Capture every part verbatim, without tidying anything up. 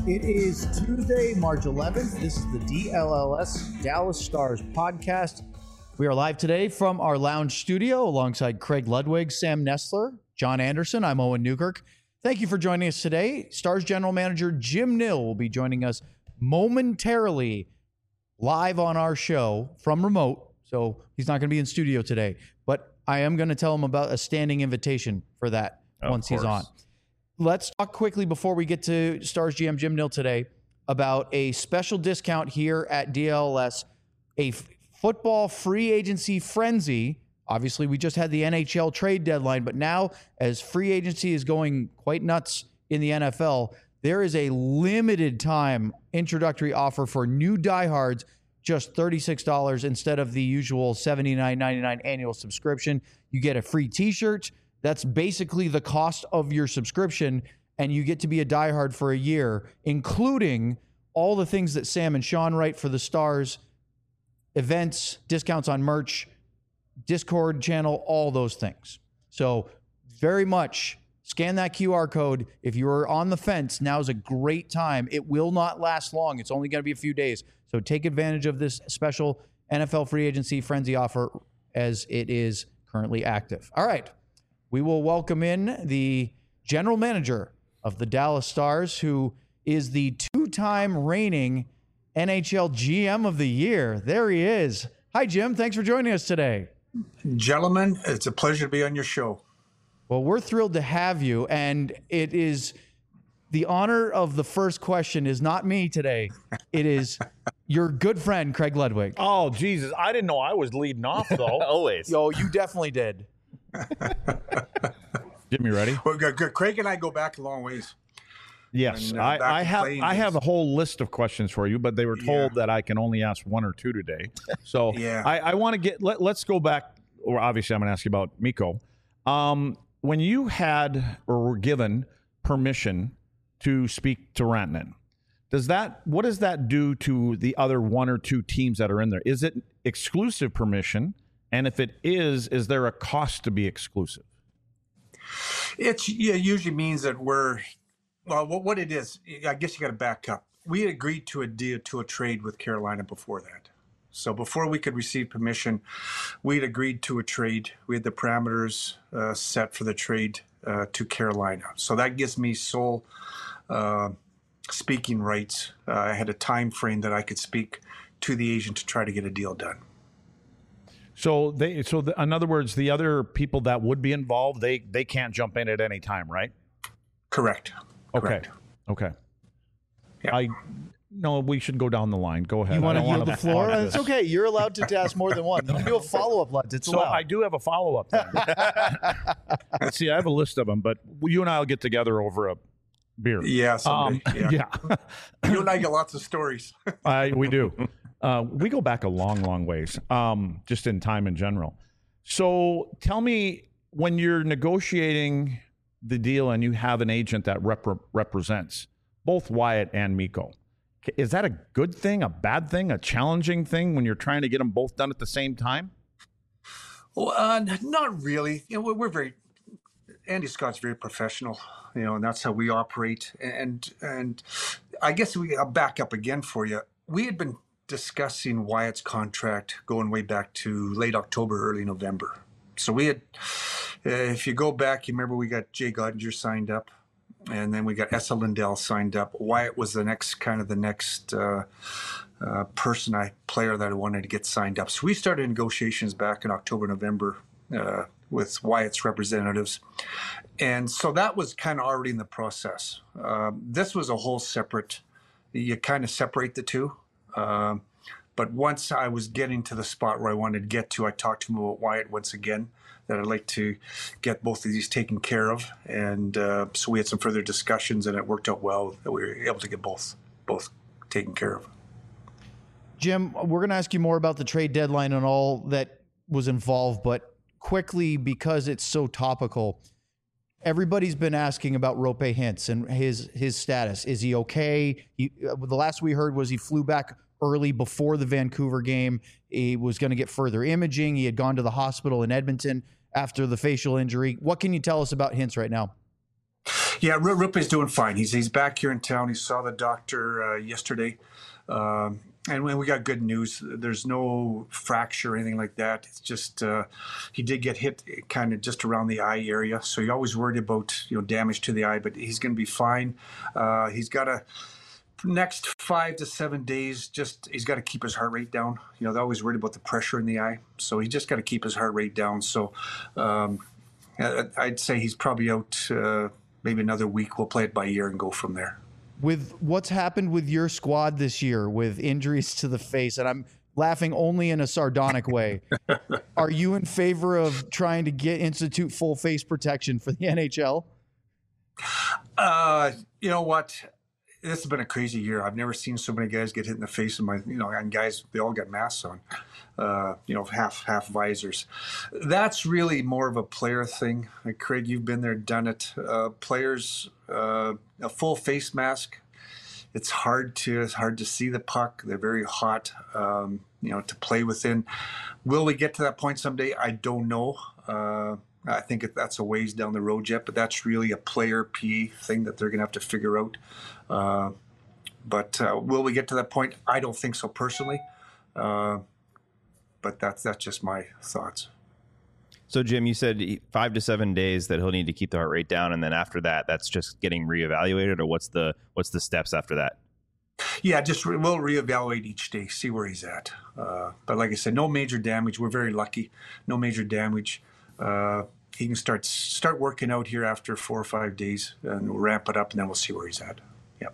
It is Tuesday, March eleventh. This is the D L L S Dallas Stars podcast. We are live today from our lounge studio alongside Craig Ludwig, Sam Nestler, John Anderson. I'm Owen Newkirk. Thank you for joining us today. Stars General Manager Jim Nill will be joining us momentarily live on our show from remote. So he's not going to be in studio today, but I am going to tell him about a standing invitation for that Of once course. he's on. Let's talk quickly before we get to Stars G M Jim Nill today about a special discount here at D L L S, a f- football free agency frenzy. Obviously, we just had the N H L trade deadline, but now as free agency is going quite nuts in the N F L, there is a limited time introductory offer for new diehards, just thirty-six dollars instead of the usual seventy-nine ninety-nine annual subscription. You get a free t-shirt. That's basically the cost of your subscription, and you get to be a diehard for a year, including all the things that Sam and Sean write for the Stars, events, discounts on merch, Discord channel, all those things. So very much scan that Q R code. If you're on the fence, now's a great time. It will not last long. It's only going to be a few days. So take advantage of this special N F L free agency frenzy offer as it is currently active. All right. We will welcome in the general manager of the Dallas Stars, who is the two-time reigning N H L G M of the year. There he is. Hi, Jim. Thanks for joining us today. Gentlemen, it's a pleasure to be on your show. Well, we're thrilled to have you, and it is the honor of the first question is not me today. It is your good friend, Craig Ludwig. Oh, Jesus. I didn't know I was leading off, though. Always. Yo, you definitely did. Get me ready? Well, good, good. Craig and I go back a long ways. Yes. And, uh, I, back I to have playing I have a days. whole list of questions for you, but they were told Yeah. that I can only ask one or two today. So Yeah. I, I want to get, let, let's go back. Or obviously, I'm going to ask you about Mikko. Um, when you had or were given permission to speak to Rantanen, does that, what does that do to the other one or two teams that are in there? Is it exclusive permission? And if it is, is there a cost to be exclusive? It's yeah, it usually means that we're well. What, what it is, I guess you got to back up. We had agreed to a deal to a trade with Carolina before that. So before we could receive permission, we had agreed to a trade. We had the parameters uh, set for the trade uh, to Carolina. So that gives me sole uh, speaking rights. Uh, I had a time frame that I could speak to the agent to try to get a deal done. So they, so the, in other words, the other people that would be involved, they they can't jump in at any time, right? Correct. Okay. Correct. Okay. Yeah. I no, we should go down the line. Go ahead. You want I to don't yield wanna the floor? hog It's this. okay. You're allowed to ask more than one. Don't do a follow-up, Lutz. It's So allowed. I do have a follow up. Let's see. I have a list of them, but you and I will get together over a beer. Yeah. Someday. Um, yeah. yeah. You and I got lots of stories. I, we do. Uh, we go back a long, long ways, um, just in time in general. So tell me, when you're negotiating the deal and you have an agent that rep- represents both Wyatt and Mikko, is that a good thing, a bad thing, a challenging thing when you're trying to get them both done at the same time? Well, uh, not really. You know, we're, we're very Andy Scott's very professional, you know, and that's how we operate. And and I guess we I'll back up again for you. We had been discussing Wyatt's contract going way back to late October, early November. So we had, uh, if you go back, you remember we got Jay Gottinger signed up, and then we got Esa Lindell signed up. Wyatt was the next kind of the next uh, uh, person, I player that I wanted to get signed up. So we started negotiations back in October, November uh, with Wyatt's representatives. And so that was kind of already in the process. Um, this was a whole separate, you kind of separate the two. Um, but once I was getting to the spot where I wanted to get to, I talked to him about Wyatt once again, that I'd like to get both of these taken care of. And uh, so we had some further discussions, and it worked out well that we were able to get both both taken care of. Jim, we're going to ask you more about the trade deadline and all that was involved, but quickly, because it's so topical, everybody's been asking about Roope Hintz and his his status. Is he okay? He, uh, the last we heard was he flew back early before the Vancouver game. He was going to get further imaging. He had gone to the hospital in Edmonton after the facial injury. What can you tell us about Hintz right now? Yeah, R- Rupe's doing fine. He's he's back here in town. He saw the doctor uh, yesterday, um, and when we got good news, there's no fracture or anything like that. It's just uh, he did get hit kind of just around the eye area, so you're always worried about you know damage to the eye, but he's going to be fine. Uh, he's got a next five to seven days. Just he's got to keep his heart rate down. You know, they're always worried about the pressure in the eye, so he just got to keep his heart rate down. So. Um, I'd say he's probably out uh, maybe another week. We'll play it by ear and go from there. With what's happened with your squad this year with injuries to the face, and I'm laughing only in a sardonic way, are you in favor of trying to get institute full face protection for the N H L? Uh, you know what? This has been a crazy year. I've never seen so many guys get hit in the face. In my, you know, and guys, they all got masks on. Uh, you know, half half visors. That's really more of a player thing. Like Craig, you've been there, done it. Uh, players, uh, a full face mask. It's hard to it's hard to see the puck. They're very hot. Um, you know, to play within. Will we get to that point someday? I don't know. Uh, I think that's a ways down the road yet, but that's really a player P E thing that they're going to have to figure out. Uh, but uh, will we get to that point? I don't think so personally. Uh, but that's that's just my thoughts. So, Jim, you said five to seven days that he'll need to keep the heart rate down, and then after that, that's just getting reevaluated, or what's the what's the steps after that? Yeah, just re- we'll reevaluate each day, see where he's at. Uh, but like I said, no major damage. We're very lucky. No major damage. Uh, he can start start working out here after four or five days, and we'll ramp it up, and then we'll see where he's at. Yep.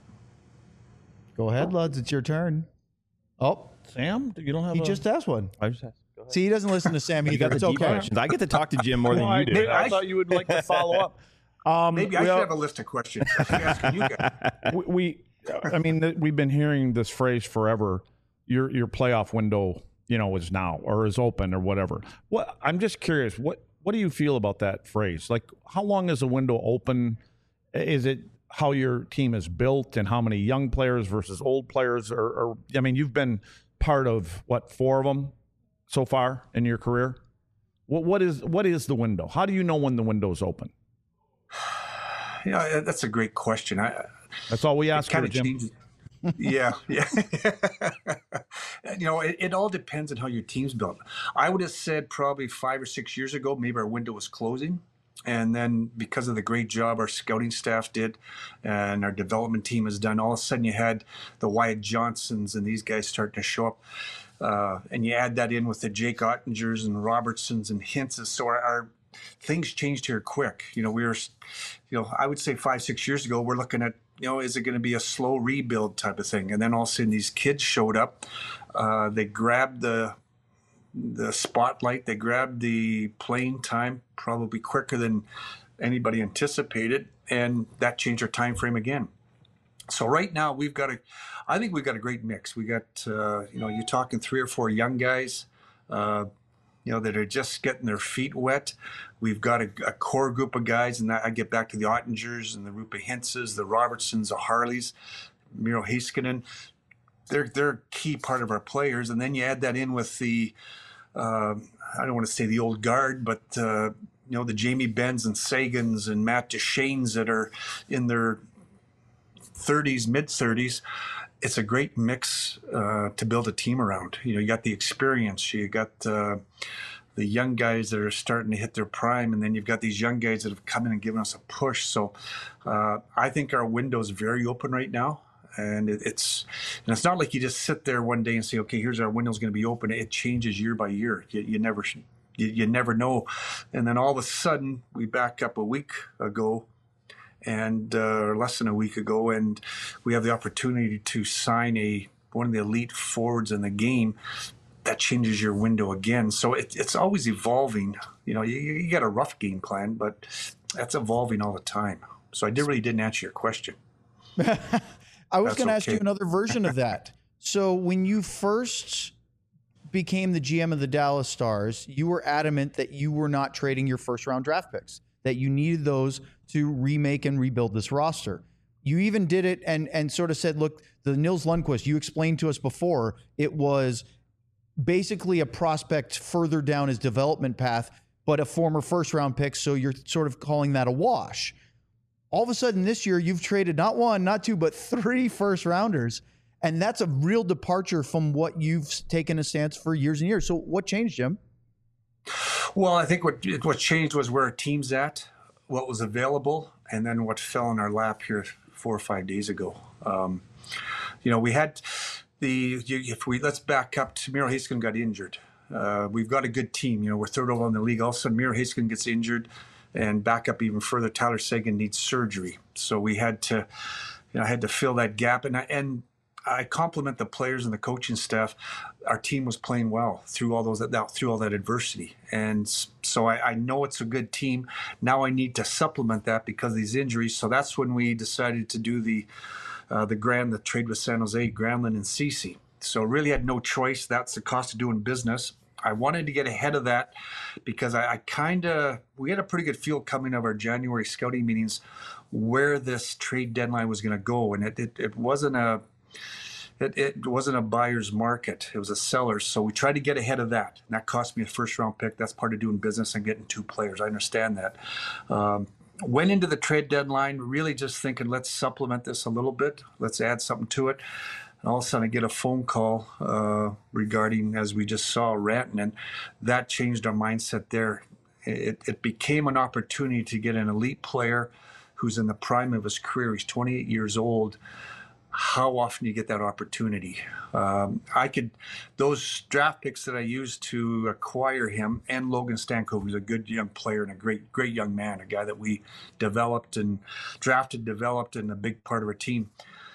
Go ahead, Luds. It's your turn. Oh, Sam, you don't have. he a... just asked one. I just asked. See, he doesn't listen to Sam You either. got the It's deep okay. questions. I get to talk to Jim more than you do. Maybe I, I thought you would like to follow up. Um, Maybe I well, should have a list of questions. I should ask you guys. we, we, I mean, th- we've been hearing this phrase forever. Your your playoff window, you know, is now or is open or whatever. What I'm just curious. What what do you feel about that phrase? Like, how long is a window open? Is it how your team is built and how many young players versus old players? Or, or I mean, you've been part of what four of them so far in your career. What what is what is the window? How do you know when the window is open? You know, that's a great question. I, That's all we ask kind for, of Jim. changes. Yeah, yeah. You know, it, it all depends on how your team's built. I would have said probably five or six years ago, maybe our window was closing. And then because of the great job our scouting staff did and our development team has done, all of a sudden you had the Wyatt Johnsons and these guys starting to show up. Uh, and you add that in with the Jake Ottingers and Robertsons and Hintzes. So our, our things changed here quick. You know, we were, you know, I would say five, six years ago, we're looking at, you know, is it going to be a slow rebuild type of thing? And then all of a sudden these kids showed up. Uh, they grabbed the the spotlight. They grabbed the playing time probably quicker than anybody anticipated. And that changed our time frame again. So right now we've got a, I think we've got a great mix. We got, uh, you know, you're talking three or four young guys, uh, you know, that are just getting their feet wet. We've got a, a core group of guys, and that, I get back to the Ottingers and the Rupa Hintzes, the Robertsons, the Harleys, Miro Heiskanen. They're they're a key part of our players, and then you add that in with the, uh, I don't want to say the old guard, but uh, you know, the Jamie Benns and Sagans and Matt Deschaines that are in their thirties, mid thirties. It's a great mix uh, to build a team around. You know, you got the experience, you got uh, the young guys that are starting to hit their prime, and then you've got these young guys that have come in and given us a push. So uh, I think our window is very open right now, and it, it's and it's not like you just sit there one day and say, okay, here's our window's going to be open. It changes year by year. You, you never you, you never know, and then all of a sudden we back up a week ago. And uh, less than a week ago, and we have the opportunity to sign a one of the elite forwards in the game. That changes your window again. So it, it's always evolving. You know, you, you got a rough game plan, but that's evolving all the time. So I did, really didn't answer your question. I was That's going to ask okay. you another version of that. So when you first became the G M of the Dallas Stars, you were adamant that you were not trading your first round draft picks, that you needed those to remake and rebuild this roster. You even did it and and sort of said, look, the Nils Lundqvist, you explained to us before, it was basically a prospect further down his development path, but a former first round pick. So you're sort of calling that a wash. All of a sudden this year, you've traded not one, not two, but three first rounders. And that's a real departure from what you've taken a stance for years and years. So what changed, Jim? Well, I think what what changed was where our team's at, what was available, and then what fell in our lap here four or five days ago. Um, you know, we had the, if we, let's back up to Miro Heiskanen got injured. Uh, we've got a good team. You know, we're third overall in the league. All of a sudden, Miro Heiskanen gets injured, and back up even further, Tyler Seguin needs surgery. So we had to, you know, I had to fill that gap. And I, and I compliment the players and the coaching staff. Our team was playing well through all those that through all that adversity, and so I, I know it's a good team. Now I need to supplement that because of these injuries. So that's when we decided to do the uh, the grand the trade with San Jose, Granlund and Ceci. So really had no choice. That's the cost of doing business. I wanted to get ahead of that because I, I kind of we had a pretty good feel coming out of our January scouting meetings where this trade deadline was going to go, and it it, it wasn't a It, it wasn't a buyer's market. It was a seller's. So we tried to get ahead of that. And that cost me a first-round pick. That's part of doing business and getting two players. I understand that. Um, went into the trade deadline really just thinking, let's supplement this a little bit. Let's add something to it. And all of a sudden I get a phone call uh, regarding, as we just saw, Rantanen. That changed our mindset there. It, it became an opportunity to get an elite player who's in the prime of his career. He's twenty-eight years old. How often do you get that opportunity? Um, I could, those draft picks that I used to acquire him, and Logan Stanko, who's a good young player and a great, great young man, a guy that we developed and drafted, developed, and a big part of our team.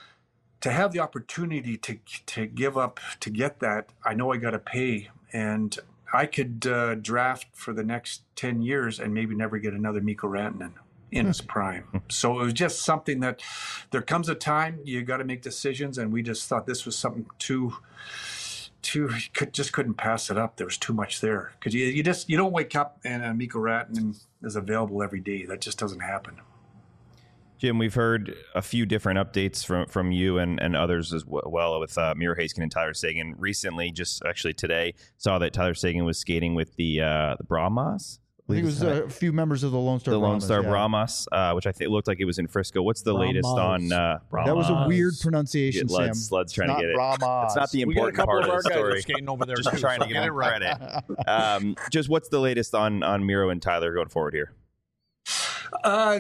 To have the opportunity to to give up to get that, I know I got to pay, and I could uh, draft for the next ten years and maybe never get another Mikko Rantanen in his prime. So it was just something that there comes a time you got to make decisions, and we just thought this was something too, too could just couldn't pass it up. There was too much there because you you just you don't wake up and uh, Mikko Rantanen is available every day. That just doesn't happen. Jim, we've heard a few different updates from, from you and, and others as well with uh, Miro Heiskanen and Tyler Seguin. Recently, just actually today, saw that Tyler Seguin was skating with the uh, the Brahmas. I think it was a few members of the Lone Star the Brahmas, Lone Star yeah. Brahmas, uh, which I think looked like it was in Frisco. What's the Brahmas. latest on uh, Brahmas? That was a weird pronunciation, Get Lud's, Sam. Lud's trying It's to get it. Brahmas. It's not the We got a important couple part of of our the guys story. skating over there. Just too, trying so to get give it him right. credit. Um, just what's the latest on on Miro and Tyler going forward here? Uh,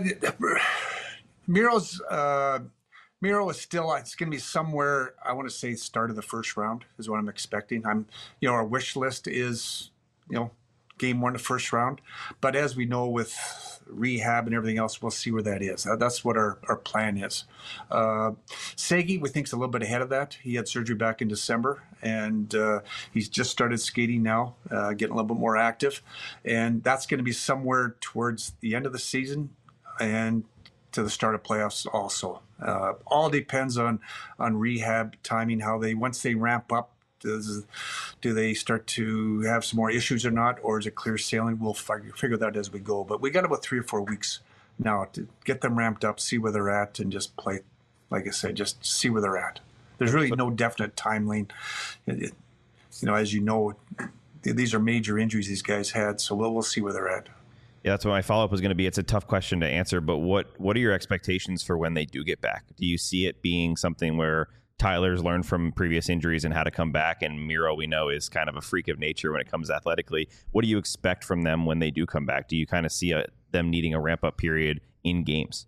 Miro's uh, Miro is still. It's going to be somewhere. I want to say start of the first round is what I'm expecting. I'm, you know, our wish list is, you know, game one, the first round. But as we know, with rehab and everything else, we'll see where that is. That's what our, our plan is. Uh, Segi, we think's a little bit ahead of that. He had surgery back in December, and uh, he's just started skating now, uh, getting a little bit more active, and that's going to be somewhere towards the end of the season and to the start of playoffs also. Uh, all depends on on rehab timing, how they once they ramp up. Does, do they start to have some more issues or not, or is it clear sailing? We'll figure, figure that as we go. But we got about three or four weeks now to get them ramped up, see where they're at, and just play, like I said, just see where they're at. There's really no definite timeline. It, it, you know, as you know, these are major injuries these guys had, so we'll, we'll see where they're at. Yeah, that's what my follow-up was going to be. It's a tough question to answer, but what, what are your expectations for when they do get back? Do you see it being something where Tyler's learned from previous injuries and how to come back, and Miro, we know, is kind of a freak of nature when it comes athletically? What do you expect from them when they do come back? Do you kind of see a, them needing a ramp-up period in games?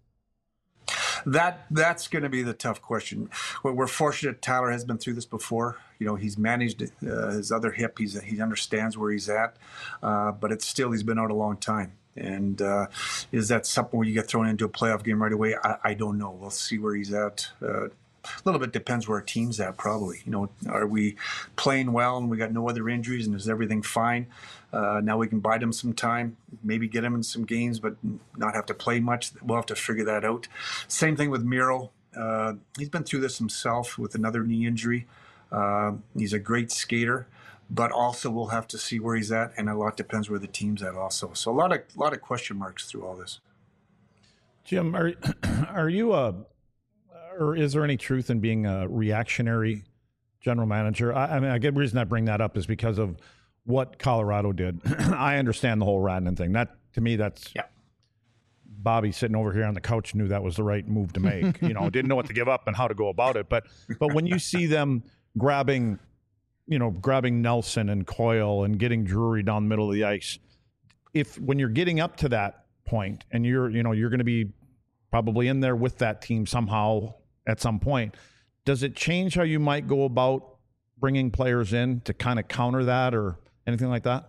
That that's going to be the tough question. We're, we're fortunate Tyler has been through this before. You know, he's managed uh, his other hip. He's he understands where he's at, uh, but it's still he's been out a long time. And uh, is that something where you get thrown into a playoff game right away? I, I don't know. We'll see where he's at. Uh, A little bit depends where our team's at, probably. You know, are we playing well and we got no other injuries and is everything fine? Uh, now we can buy them some time, maybe get him in some games, but not have to play much. We'll have to figure that out. Same thing with Miro. Uh, he's been through this himself with another knee injury. Uh, he's a great skater, but also we'll have to see where he's at, and a lot depends where the team's at also. So a lot of a lot of question marks through all this. Jim, are are you a or is there any truth in being a reactionary general manager? I, I mean, I get the reason I bring that up is because of what Colorado did. I understand the whole Rantanen thing. That to me, that's yeah. Bobby sitting over here on the couch knew that was the right move to make. You know, didn't know what to give up and how to go about it. But but when you see them grabbing, you know, grabbing Nelson and Coyle and getting Drury down the middle of the ice, if when you're getting up to that point and you're, you know, you're going to be probably in there with that team somehow at some point, does it change how you might go about bringing players in to kind of counter that or anything like that?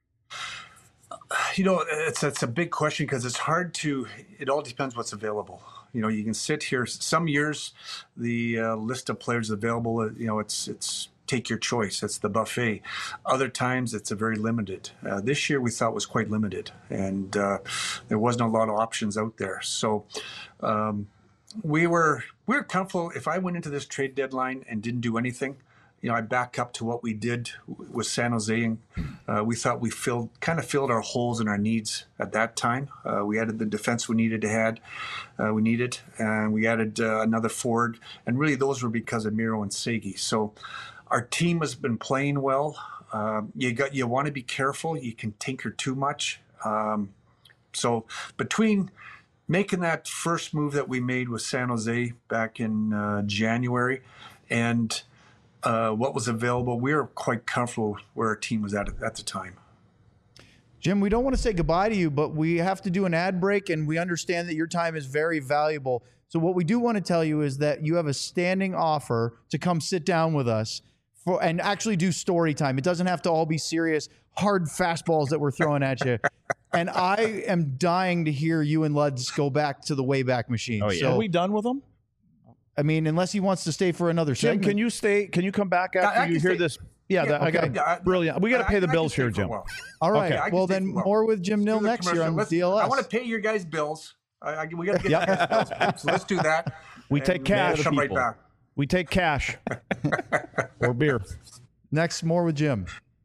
You know, it's it's a big question because it's hard to, it all depends what's available. You know, you can sit here, some years, the uh, list of players available, uh, you know, it's it's take your choice. It's the buffet. Other times, it's a very limited. Uh, this year, we thought was quite limited, and uh, there wasn't a lot of options out there. So um, we were we were comfortable. If I went into this trade deadline and didn't do anything, you know, I back up to what we did with San Jose, and uh, we thought we filled kind of filled our holes and our needs at that time. Uh, we added the defense we needed to had, uh, we needed, and we added uh, another forward, and really those were because of Miro and Segi. So our team has been playing well. Um, you got you want to be careful. You can tinker too much. Um, so between making that first move that we made with San Jose back in uh, January and Uh, what was available, we were quite comfortable where our team was at at the time. Jim, we don't want to say goodbye to you, but we have to do an ad break, and we understand that your time is very valuable. So what we do want to tell you is that you have a standing offer to come sit down with us for and actually do story time. It doesn't have to all be serious, hard fastballs that we're throwing at you. And I am dying to hear you and Luds go back to the Wayback Machine. Oh, yeah. So, Are we done with them? I mean, unless he wants to stay for another Jim, segment. can you stay? Can you come back after I- I you can hear stay. this? Yeah, Yeah, that, I okay. got Yeah, I- brilliant. We got to I- pay the I can bills stay here, for a Jim. while. All right. Okay. I can Well, stay then for a while. more with Jim Let's Nill do the next year commercial. on Let's- D L S. I want to pay your guys' bills. I, I, we got to get you guys' bills. So let's do that. We And take cash. we'll come right back. We take cash or beer. Next, more with Jim.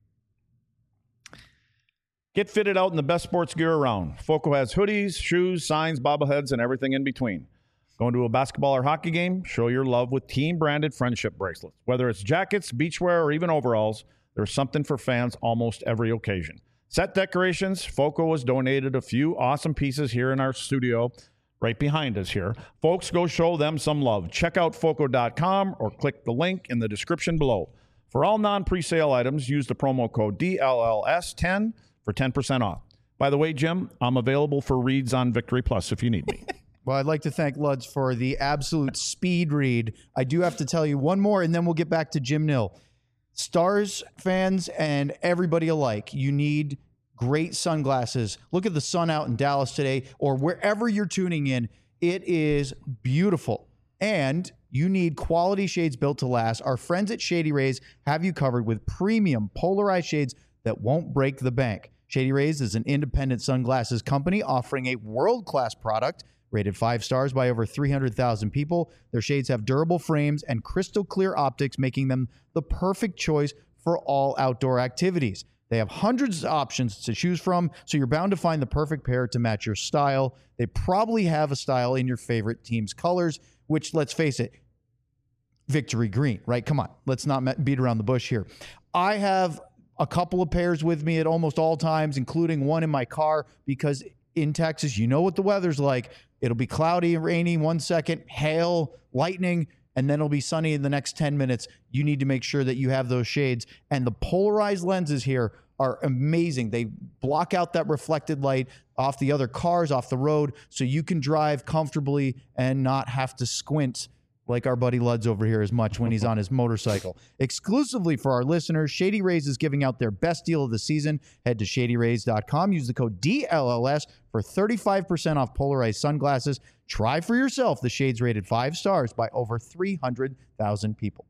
Get fitted out in the best sports gear around. Foco has hoodies, shoes, signs, bobbleheads, and everything in between. Going to a basketball or hockey game? Show your love with team-branded friendship bracelets. Whether it's jackets, beachwear, or even overalls, there's something for fans almost every occasion. Set decorations. Foco has donated a few awesome pieces here in our studio right behind us here. Folks, go show them some love. Check out foco dot com or click the link in the description below. For all non-presale items, use the promo code D L L S ten for ten percent off. By the way, Jim, I'm available for reads on Victory Plus if you need me. Well, I'd like to thank Luds for the absolute speed read. I do have to tell you one more, and then we'll get back to Jim Nill. Stars fans and everybody alike, you need great sunglasses. Look at the sun out in Dallas today, or wherever you're tuning in. It is beautiful. And you need quality shades built to last. Our friends at Shady Rays have you covered with premium polarized shades that won't break the bank. Shady Rays is an independent sunglasses company offering a world-class product rated five stars by over three hundred thousand people. Their shades have durable frames and crystal clear optics, making them the perfect choice for all outdoor activities. They have hundreds of options to choose from, so you're bound to find the perfect pair to match your style. They probably have a style in your favorite team's colors, which, let's face it, victory green, right? Come on, let's not beat around the bush here. I have a couple of pairs with me at almost all times, including one in my car, because in Texas, you know what the weather's like. It'll be cloudy and rainy one second, hail, lightning, and then it'll be sunny in the next ten minutes. You need to make sure that you have those shades. And the polarized lenses here are amazing. They block out that reflected light off the other cars, off the road, so you can drive comfortably and not have to squint like our buddy Luds over here as much when he's on his motorcycle. Exclusively for our listeners, Shady Rays is giving out their best deal of the season. Head to shady rays dot com. Use the code D L L S for thirty-five percent off polarized sunglasses. Try for yourself the shades rated five stars by over three hundred thousand people.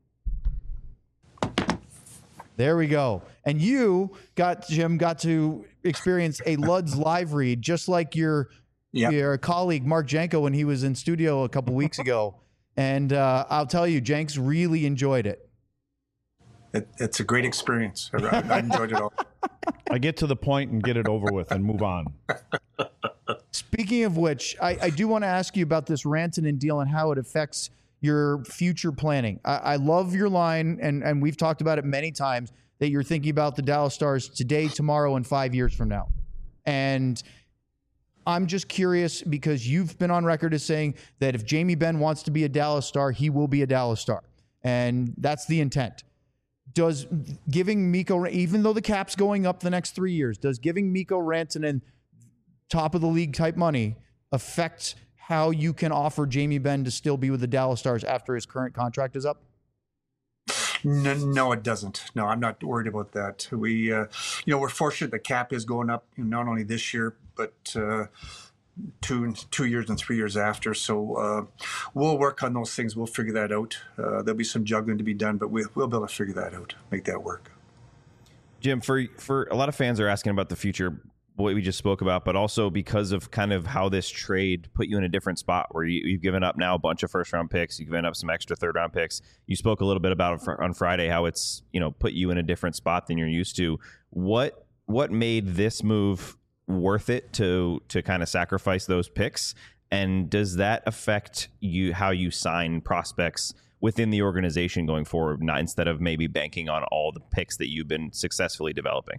There we go. And you got, Jim, got to experience a Luds live read, just like your, Yep. your colleague, Mark Janko, when he was in studio a couple weeks ago. And uh, I'll tell you, Jenks really enjoyed it. It, it's a great experience. I, I enjoyed it all. I get to the point and get it over with and move on. Speaking of which, I, I do want to ask you about this Rantanen deal and how it affects your future planning. I, I love your line, and, and we've talked about it many times, that you're thinking about the Dallas Stars today, tomorrow, and five years from now. And I'm just curious because you've been on record as saying that if Jamie Benn wants to be a Dallas Star, he will be a Dallas Star. And that's the intent. Does giving Mikko, even though the cap's going up the next three years, does giving Mikko Rantanen top of the league type money affect how you can offer Jamie Benn to still be with the Dallas Stars after his current contract is up? No, no, it doesn't. No, I'm not worried about that. We, uh, you know, we're fortunate the cap is going up, you know, not only this year, but uh, two, two years and three years after. So uh, we'll work on those things. We'll figure that out. Uh, there'll be some juggling to be done, but we, we'll be able to figure that out, make that work. Jim, for for a lot of fans are asking about the future, what we just spoke about, but also because of kind of how this trade put you in a different spot where you, you've given up now a bunch of first round picks, you've given up some extra third round picks. You spoke a little bit about it on Friday, how it's, you know, put you in a different spot than you're used to. What what made this move worth it to to kind of sacrifice those picks? And does that affect you how you sign prospects within the organization going forward, not instead of maybe banking on all the picks that you've been successfully developing?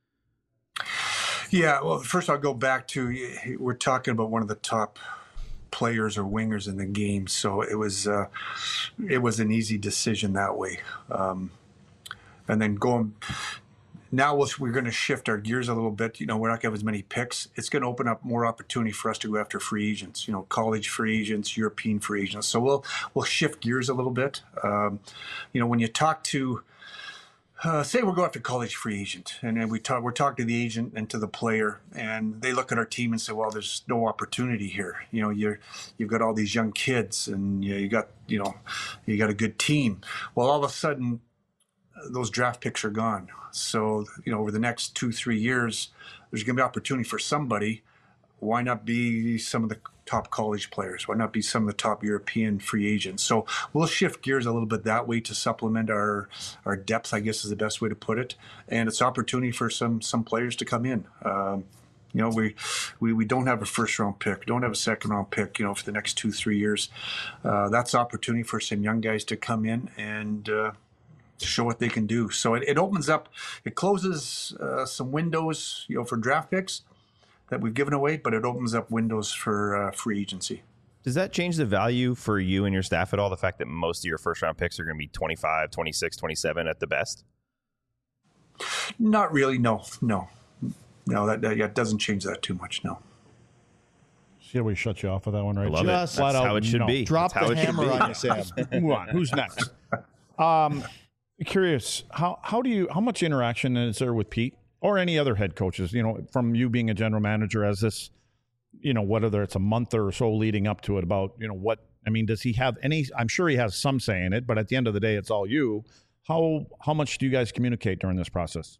Yeah, well, first I'll go back to, we're talking about one of the top players or wingers in the game, so it was uh, it was an easy decision that way. Um, and then going, now we'll, we're going to shift our gears a little bit. You know, we're not going to have as many picks. It's going to open up more opportunity for us to go after free agents, you know, college free agents, European free agents. So we'll we'll shift gears a little bit. Um, you know, when you talk to, Uh, say we're going after college free agent, and then we talk. We're talking to the agent and to the player, and they look at our team and say, "Well, there's no opportunity here. You know, you're you've got all these young kids, and you, you got you know, you got a good team." Well, all of a sudden, those draft picks are gone. So you know, over the next two three years, there's going to be opportunity for somebody. Why not be some of the top college players? Why not be some of the top European free agents? So we'll shift gears a little bit that way to supplement our our depth, I guess is the best way to put it. And it's opportunity for some some players to come in. Um, you know, we, we we don't have a first round pick, don't have a second round pick, you know, for the next two, three years. Uh, that's opportunity for some young guys to come in and uh, show what they can do. So it, it opens up, it closes uh, some windows, you know, for draft picks that we've given away, but it opens up windows for uh, free agency. Does that change the value for you and your staff at all? The fact that most of your first round picks are going to be twenty-five, twenty-six, twenty-seven at the best? Not really. No, no, no, that, that yeah, doesn't change that too much. No. See how we shut you off with that one, right? I love Just it. That's flat how out it should no. be. Drop That's how the it should hammer be. on you, Sam. Move on. Who's next? Um, curious, how how do you how much interaction is there with Pete or any other head coaches? You know, from you being a general manager, as this, you know, whether it's a month or so leading up to it, about, you know, what I mean, does he have any? I'm sure he has some say in it, but at the end of the day, it's all you. How how much do you guys communicate during this process?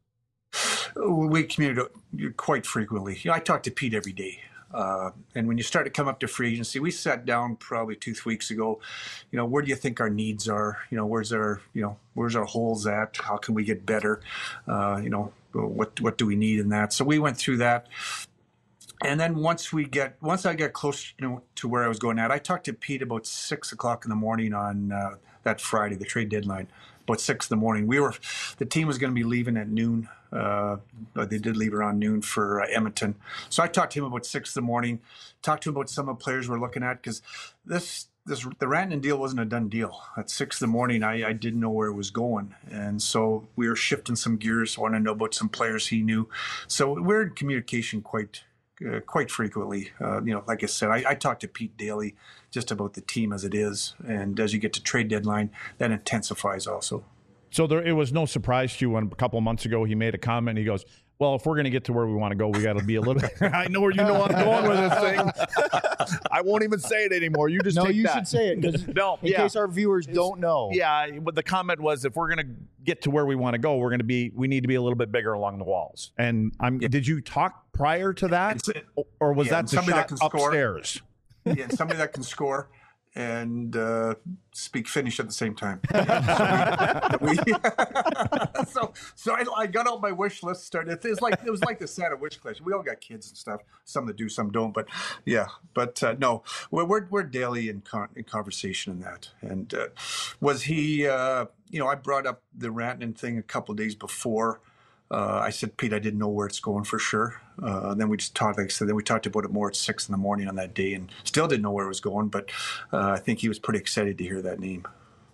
We communicate quite frequently. You know, I talk to Pete every day. Uh, and when you start to come up to free agency, we sat down probably two three weeks ago. You know, where do you think our needs are? You know, where's our, you know, where's our holes at? How can we get better? Uh, you know, what what do we need in that? So we went through that. And then once we get, once I got close, you know, to where I was going at, I talked to Pete about six o'clock in the morning on uh, that Friday, the trade deadline. About six in the morning, we were, the team was going to be leaving at noon. Uh, but they did leave around noon for uh, Edmonton. So I talked to him about six in the morning. Talked to him about some of the players we're looking at, because this this the Rantanen deal wasn't a done deal. At six in the morning, I, I didn't know where it was going, and so we were shifting some gears. Want to know about some players he knew. So we're in communication quite. Uh, quite frequently. Uh, you know, like I said, I, I talk to Pete daily just about the team as it is. And as you get to trade deadline, that intensifies also. So there, it was no surprise to you when a couple of months ago he made a comment. He goes, well, if we're going to get to where we want to go, we got to be a little bit. I know where you know I'm going with this thing. I won't even say it anymore. You just No, take you that. should say it. 'Cause No, in yeah. case our viewers don't know. Yeah, but the comment was, if we're going to get to where we want to go, we're going to be, we need to be a little bit bigger along the walls. And I'm. Yeah. Did you talk prior to that, It's- or was yeah, that the somebody that shot can score. upstairs? Yeah, somebody that can score and uh, speak Finnish at the same time. so we, so, so I, I got out my wish list. Started. It's like it was like the Santa wish list. We all got kids and stuff. Some that do, some don't. But yeah, but uh, no, we're, we're we're daily in, con- in conversation in that. And uh, was he? Uh, you know, I brought up the Rantanen thing a couple of days before. Uh, I said, Pete, I didn't know where it's going for sure. Uh, and then we just talked, like I said, then we talked about it more at six in the morning on that day, and still didn't know where it was going. But uh, I think he was pretty excited to hear that name.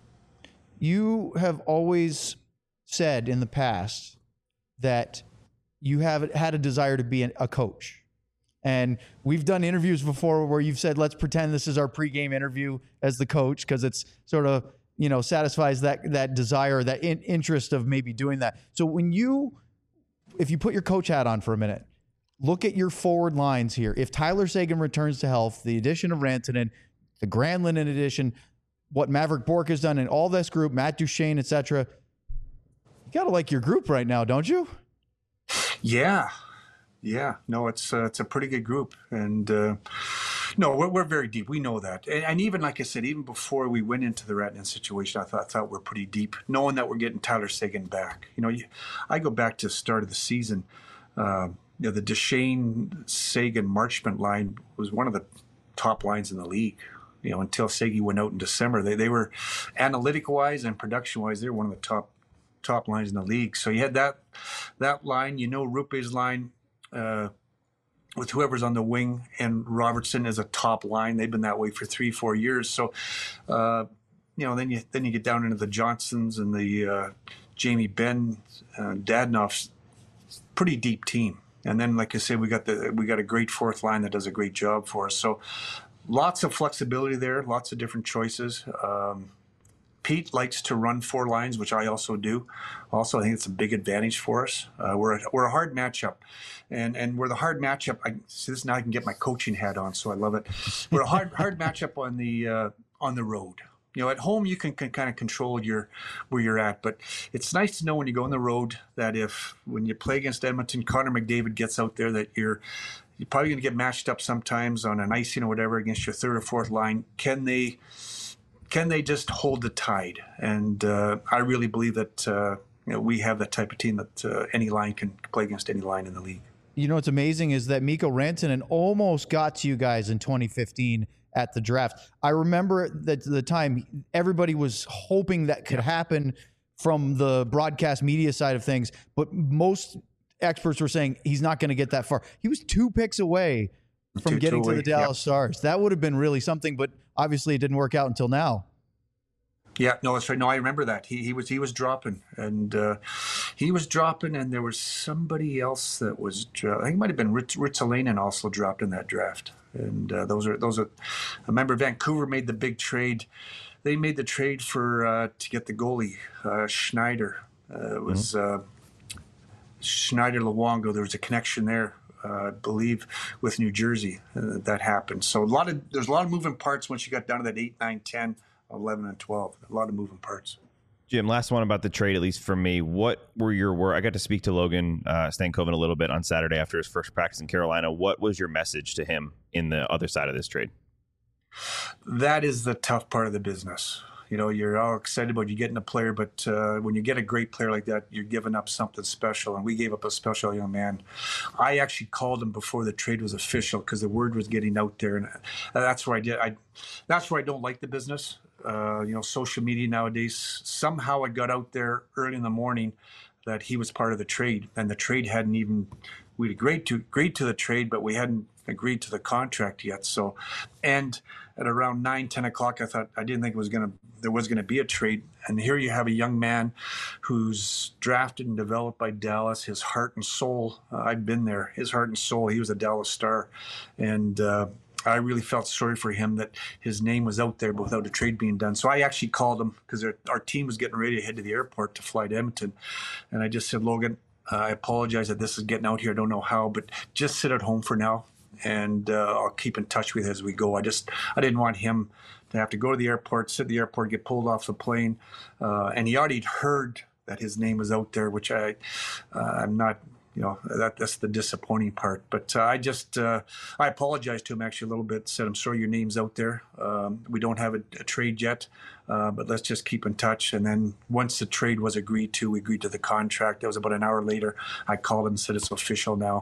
You have always said in the past that you have had a desire to be a coach. And we've done interviews before where you've said, let's pretend this is our pregame interview as the coach, because it's sort of, you know, satisfies that that desire, that in, interest of maybe doing that. So when you, if you put your coach hat on for a minute, look at your forward lines here. If Tyler Seguin returns to health, the addition of Rantanen, the Granlund addition, what Maverick Bourque has done in all this group, Matt Duchene, et cetera, you got to like your group right now, don't you? Yeah. Yeah, no, it's uh, it's a pretty good group, and uh, no, we're we're very deep. We know that, and, and even like I said, even before we went into the Rantanen situation, I thought I thought we're pretty deep, knowing that we're getting Tyler Seguin back. You know, you, I go back to the start of the season. Uh, you know, the Duchene Seguin Marchment line was one of the top lines in the league. You know, until Seguin went out in December, they they were analytic wise and production wise, they were one of the top top lines in the league. So you had that that line, you know, Rupe's line. Uh, with whoever's on the wing, and Robertson is a top line. They've been that way for three, four years. So, uh, you know, then you then you get down into the Johnsons and the uh, Jamie Benn, uh, Dadonov's pretty deep team. And then, like I said, we got the we got a great fourth line that does a great job for us. So, lots of flexibility there, lots of different choices. Um, Pete likes to run four lines, which I also do. Also, I think it's a big advantage for us. Uh, we're a, we're a hard matchup, and and we're the hard matchup. I see this now. I can get my coaching hat on, so I love it. We're a hard hard matchup on the uh, on the road. You know, at home you can, can kind of control your where you're at, but it's nice to know when you go on the road that if when you play against Edmonton, Connor McDavid gets out there, that you're you're probably going to get matched up sometimes on an icing or whatever against your third or fourth line. Can they? Can they just hold the tide? And uh, I really believe that uh, you know, we have that type of team that uh, any line can play against any line in the league. You know what's amazing is that Mikko Rantanen almost got to you guys in twenty fifteen at the draft. I remember that the time everybody was hoping that could happen from the broadcast media side of things, but most experts were saying he's not going to get that far. He was two picks away from Two, getting two to the away. Dallas Yep. Stars. That would have been really something, but obviously it didn't work out until now. Yeah, no, that's right. No, I remember that. He he was he was dropping, and uh, he was dropping, and there was somebody else that was. Dro- I think it might have been Ritz, Ritzalainen also dropped in that draft, and uh, those are those are. I remember Vancouver made the big trade. They made the trade for uh, to get the goalie uh, Schneider. Uh, it was mm-hmm. uh, Schneider Luongo. There was a connection there. Uh, I believe with New Jersey uh, that happened. So a lot of there's a lot of moving parts once you got down to that eight, nine, ten, eleven, and twelve. A lot of moving parts. Jim, last one about the trade, at least from me. What were your words? I got to speak to Logan uh, Stankoven a little bit on Saturday after his first practice in Carolina. What was your message to him in the other side of this trade? That is the tough part of the business. You know, you're all excited about you getting a player, but uh, when you get a great player like that, you're giving up something special. And we gave up a special young man. I actually called him before the trade was official because the word was getting out there, and that's where I did. I that's where I don't like the business. Uh, you know, social media nowadays. Somehow it got out there early in the morning that he was part of the trade, and the trade hadn't even. We'd agreed to agreed to the trade, but we hadn't agreed to the contract yet. So, and at around nine, ten o'clock, I thought I didn't think it was gonna there was gonna be a trade. And here you have a young man who's drafted and developed by Dallas. His heart and soul, uh, I've been there. His heart and soul. He was a Dallas Star, and uh, I really felt sorry for him that his name was out there, but without a trade being done. So I actually called him because our team was getting ready to head to the airport to fly to Edmonton, and I just said, Logan, Uh, I apologize that this is getting out here. I don't know how, but just sit at home for now, and uh, I'll keep in touch with you as we go. I just I didn't want him to have to go to the airport, sit at the airport, get pulled off the plane, uh, and he already heard that his name was out there, which I uh, I'm not. You know, that that's the disappointing part. But uh, I just uh, I apologized to him actually a little bit. Said, I'm sorry your name's out there. Um, we don't have a, a trade yet, uh, but let's just keep in touch. And then once the trade was agreed to, we agreed to the contract. That was about an hour later. I called him and said it's official now.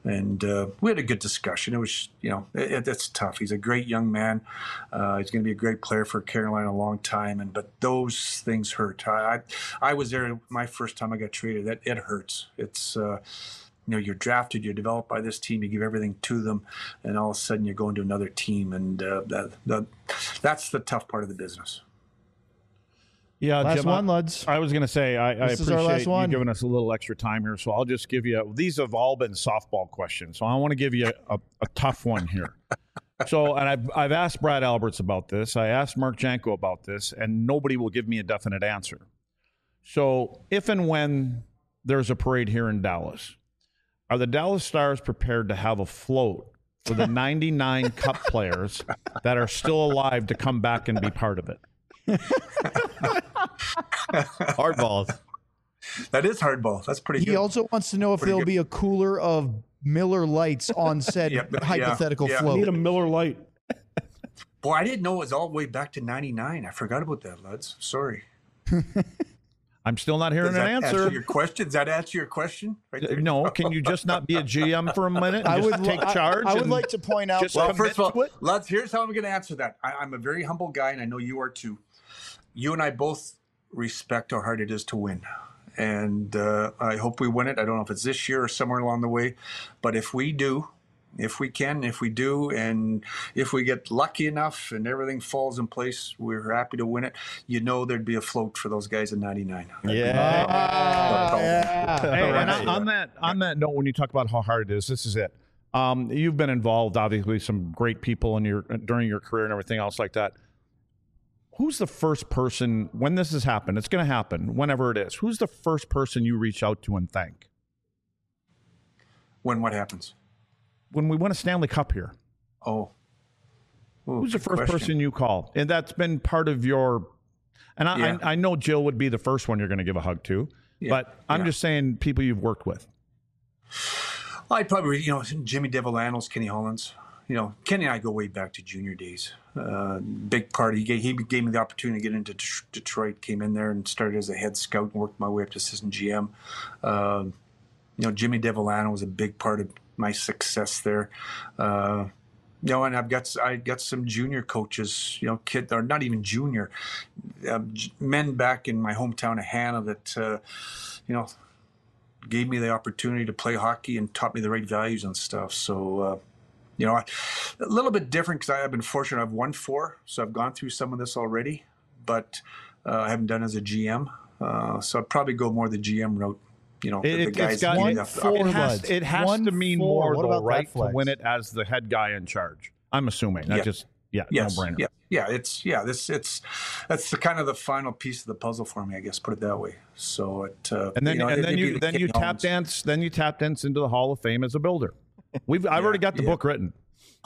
And uh, we had a good discussion. It was, you know, it, it's tough. He's a great young man. Uh, he's going to be a great player for Carolina a long time. And but those things hurt. I I, I was there my first time I got traded. That it hurts. It's uh, you know, you're drafted, you're developed by this team, you give everything to them, and all of a sudden you're going to another team, and uh, that, that that's the tough part of the business. Yeah, Last Jim, one, I, Luds. I was going to say, I, I This is our appreciate last you one. giving us a little extra time here, so I'll just give you, these have all been softball questions, so I want to give you a, a, a tough one here. So, and I've, I've asked Brad Alberts about this, I asked Mark Janko about this, and nobody will give me a definite answer. So, if and when there's a parade here in Dallas, are the Dallas Stars prepared to have a float for the ninety-nine Cup players that are still alive to come back and be part of it? Hardballs. That is hardball. That's pretty He good. also wants to know if Pretty there'll good. be a cooler of Miller Lights on said Yep, yeah, hypothetical yeah. float. Need a Miller Lite. Boy, I didn't know it was all the way back to ninety-nine. I forgot about that, Luds. Sorry. I'm still not hearing Does an that answer. your question? Does that answer your question? Right Uh, there? No, can you just not be a G M for a minute and I just would take I- charge? I, would and like to point out. just Well, commit first of all, to it? Luds, here's how I'm going to answer that. I, I'm a very humble guy, and I know you are too. You and I both respect how hard it is to win. And uh, I hope we win it. I don't know if it's this year or somewhere along the way. But if we do, if we can, if we do, and if we get lucky enough and everything falls in place, we're happy to win it. You know there'd be a float for those guys in ninety-nine. Yeah. Ah, yeah. Hey, and Right. on, on that on that note, when you talk about how hard it is, this is it. Um, you've been involved, obviously, some great people in your during your career and everything else like that. Who's the first person when this has happened? It's going to happen whenever it is. Who's the first person you reach out to and thank When what happens? when we win a Stanley Cup here? Oh. Ooh, Who's the good first question. person you call? And that's been part of your. And I, Yeah. I, I know Jill would be the first one you're going to give a hug to, Yeah, but I'm yeah. just saying people you've worked with. I'd probably, you know, Jimmy Devilanos, Kenny Hollins. You know, Kenny and I go way back to junior days. Uh, big part. He gave, he gave me the opportunity to get into Det- Detroit. Came in there and started as a head scout and worked my way up to assistant G M. Uh, you know, Jimmy Devilano was a big part of my success there. Uh, you know, and I've got I got some junior coaches. You know, kid or not even junior um, j- men back in my hometown of Hannah that uh, you know gave me the opportunity to play hockey and taught me the right values and stuff. So. Uh, You know, a little bit different because I've been fortunate. I've won four, so I've gone through some of this already, but uh, I haven't done it as a G M. Uh, so I'd probably go more the G M route. You know, the, the It, guys it's got, give me it, the- four it has, buds. it has One to mean four. more, What though, about that right? To flex? win it as the head guy in charge. I'm assuming. That Yeah. just, yeah, Yes, no brainer. yeah, yeah. It's yeah. This it's that's the kind of the final piece of the puzzle for me, I guess. Put it that way. So it uh, And then, you know, and it- then it'd be you, the then you Kenny tap Hollins. dance, then you tap dance into the Hall of Fame as a builder. We've, I've Yeah, already got the yeah. book written.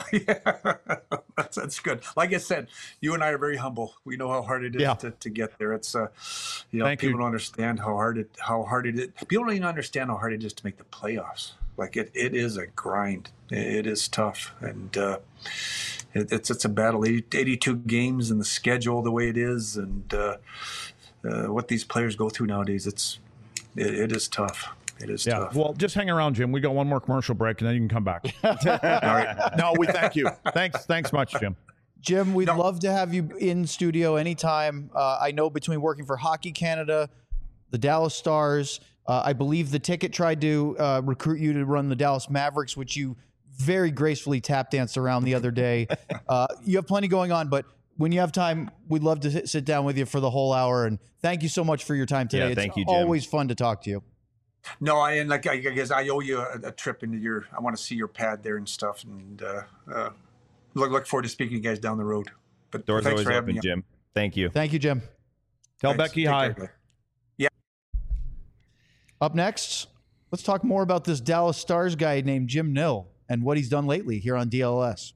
Yeah, that's that's good. Like I said, you and I are very humble. We know how hard it is Yeah. to, to get there. It's uh, you know, Thank people you. don't understand how hard it how hard it is. People don't even understand how hard it is to make the playoffs. Like it, it is a grind. It, it is tough, and uh, it, it's it's a battle. eighty, eighty-two games and the schedule the way it is, and uh, uh, what these players go through nowadays. It's it, it is tough. It is Yeah. tough. Well, just hang around, Jim. We got one more commercial break, and then you can come back. All right. No, we thank you. Thanks. Thanks much, Jim. Jim, we'd No. love to have you in studio anytime. Uh, I know between working for Hockey Canada, the Dallas Stars, uh, I believe the ticket tried to uh, recruit you to run the Dallas Mavericks, which you very gracefully tap danced around the other day. Uh, you have plenty going on, but when you have time, we'd love to sit- sit down with you for the whole hour. And thank you so much for your time today. Yeah, thank it's you, Jim. always fun to talk to you. No, I and like I guess I owe you a, a trip into your. I want to see your pad there and stuff, and uh, uh, look look forward to speaking to you guys down the road. But Doors thanks always for having open, me. Jim. Thank you. Thank you, Jim. Tell Thanks. Becky Take hi. care, guys. Up next, let's talk more about this Dallas Stars guy named Jim Nill and what he's done lately here on D L S.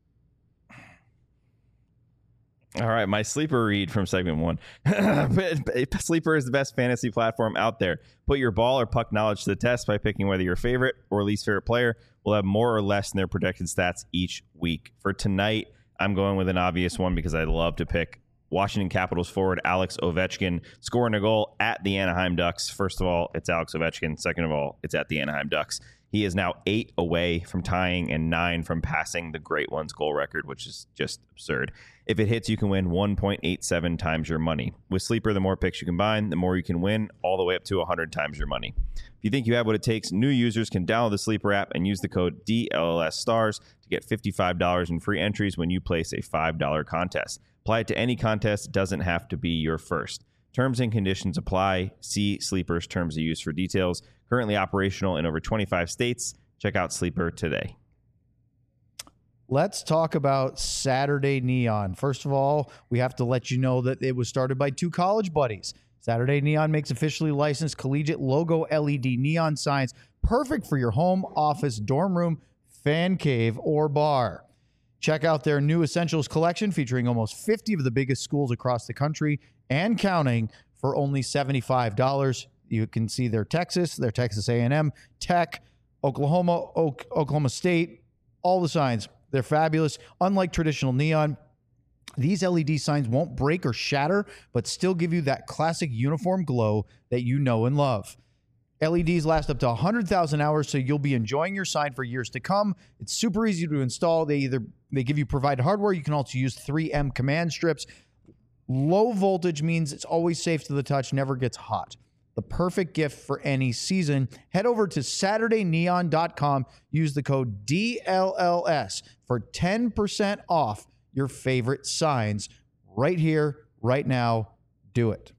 All right, my sleeper read from segment one. Sleeper is the best fantasy platform out there. Put your ball or puck knowledge to the test by picking whether your favorite or least favorite player will have more or less in their projected stats each week. For tonight, I'm going with an obvious one because I love to pick Washington Capitals forward Alex Ovechkin scoring a goal at the Anaheim Ducks. First of all, it's Alex Ovechkin. Second of all, it's at the Anaheim Ducks. He is now eight away from tying and nine from passing the Great Ones goal record, which is just absurd. If it hits, you can win one point eight seven times your money. With Sleeper, the more picks you combine, the more you can win, all the way up to one hundred times your money. If you think you have what it takes, new users can download the Sleeper app and use the code D L L S stars to get fifty-five dollars in free entries when you place a five dollar contest. Apply it to any contest. It doesn't have to be your first. Terms and conditions apply. See Sleeper's terms of use for details. Currently operational in over twenty-five states. Check out Sleeper today. Let's talk about Saturday Neon. First of all, we have to let you know that it was started by two college buddies. Saturday Neon makes officially licensed collegiate logo L E D neon signs perfect for your home, office, dorm room, fan cave, or bar. Check out their new Essentials collection featuring almost fifty of the biggest schools across the country and counting for only seventy-five dollars. You can see their Texas, their Texas A and M, Tech, Oklahoma, Oak, Oklahoma State, all the signs. They're fabulous. Unlike traditional neon, these L E D signs won't break or shatter, but still give you that classic uniform glow that you know and love. L E Ds last up to one hundred thousand hours, so you'll be enjoying your sign for years to come. It's super easy to install. They either they give you provided hardware. You can also use three M command strips. Low voltage means it's always safe to the touch, never gets hot. The perfect gift for any season. Head over to Saturday Neon dot com. Use the code D L L S for ten percent off your favorite signs right here, right now. Do it.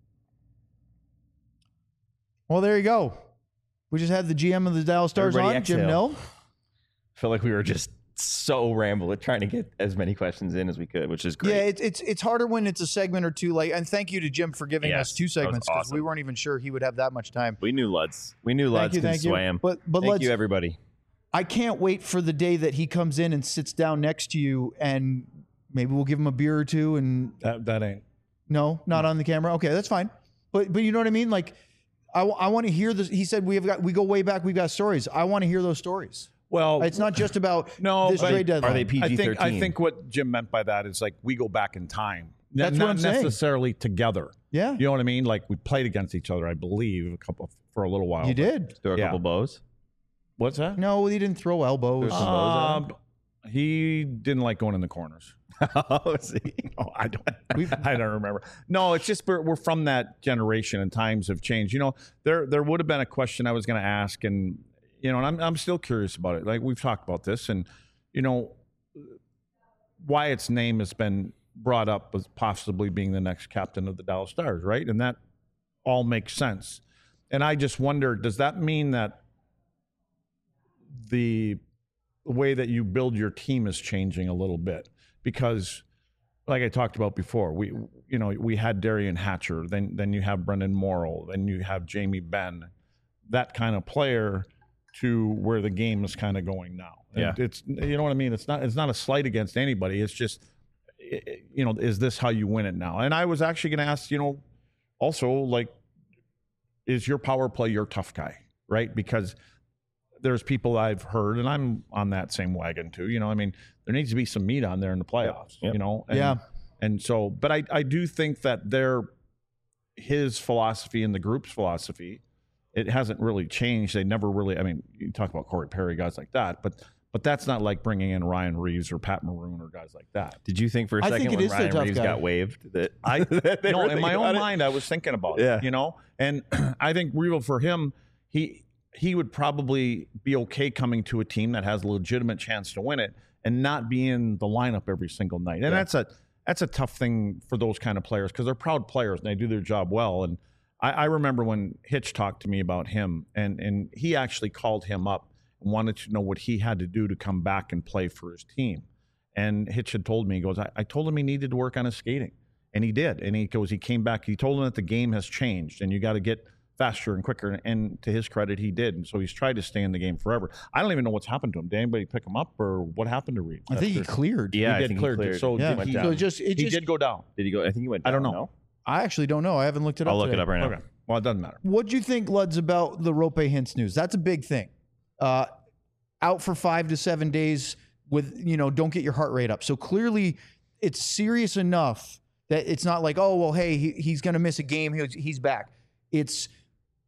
Well, there you go. We just had the G M of the Dallas Stars Everybody on, Jim exhale. Nill. I feel like we were just so rambling, trying to get as many questions in as we could, which is great. Yeah, it's it's it's harder when it's a segment or two. Like, and thank you to Jim for giving Yes, us two that was segments because awesome. we weren't even sure he would have that much time. We knew Luds. We knew Thank Luds you, can thank you. swam. But but Thank let's. you, everybody. I can't wait for the day that he comes in and sits down next to you, and maybe we'll give him a beer or two. And That that ain't. no, not on the camera. Okay, that's fine. But but you know what I mean? Like, I, I want to hear this. He said we have got we go way back. We've got stories. I want to hear those stories. Well, It's not just about No, this but trade deadline. Are they P I G think thirteen? I think what Jim meant by that is like we go back in time. N- That's not what I'm saying. necessarily together. Yeah, You know what I mean? Like we played against each other, I believe, a couple for a little while. you did. Throw a Yeah. couple bows. What's that? No, he didn't throw elbows. There's some bows Um, he didn't like going in the corners. Oh, see. Oh, I don't. I don't remember. No, it's just we're, we're from that generation, and times have changed. You know, there there would have been a question I was going to ask, and you know, and I'm I'm still curious about it. Like we've talked about this, and you know, Wyatt's name has been brought up as possibly being the next captain of the Dallas Stars, right? And that all makes sense. And I just wonder, does that mean that the way that you build your team is changing a little bit? Because like I talked about before, we you know we had Darian Hatcher, then then you have Brendan Morrow, then you have Jamie Benn, that kind of player to where the game is kind of going now. And Yeah. it's you know what I mean. It's not it's not a slight against anybody. It's just you know is this how you win it now? And I was actually going to ask you know also like is your power play your tough guy, right? Because there's people I've heard, and I'm on that same wagon too. You know, I mean, there needs to be some meat on there in the playoffs. Yep. You know, and, Yeah. And so, but I, I do think that their his philosophy and the group's philosophy, it hasn't really changed. They never really. I mean, you talk about Corey Perry, guys like that, but but that's not like bringing in Ryan Reeves or Pat Maroon or guys like that. Did you think for a I second think it when is their Ryan tough Reeves guy. got waived that I that they no, were in my thinking own about it? mind, I was thinking about Yeah. it. You know, and I think Real for him, he he would probably be okay coming to a team that has a legitimate chance to win it and not be in the lineup every single night. And Yeah. that's a that's a tough thing for those kind of players because they're proud players and they do their job well. And I, I remember when Hitch talked to me about him, and and he actually called him up and wanted to know what he had to do to come back and play for his team. And Hitch had told me, he goes, I, I told him he needed to work on his skating. And he did. And he goes, he came back. He told him that the game has changed and you got to get faster and quicker. And to his credit, he did. And so he's tried to stay in the game forever. I don't even know what's happened to him. Did anybody pick him up or what happened to Reed? I think he cleared. Yeah, he I did think clear. he cleared. So Yeah. did Went he, down. So it just it he just did go down. Did he go? I think he went. I Down, don't know. no? I actually don't know. I haven't looked it up. I'll look today. it up right now. Okay. Well, it doesn't matter. What'd you think, Luds, about the Rope Hintz news? That's a big thing. Uh, out for five to seven days with, you know, don't get your heart rate up. So clearly it's serious enough that it's not like, oh, well, hey, he, he's going to miss a game. He's, he's back. It's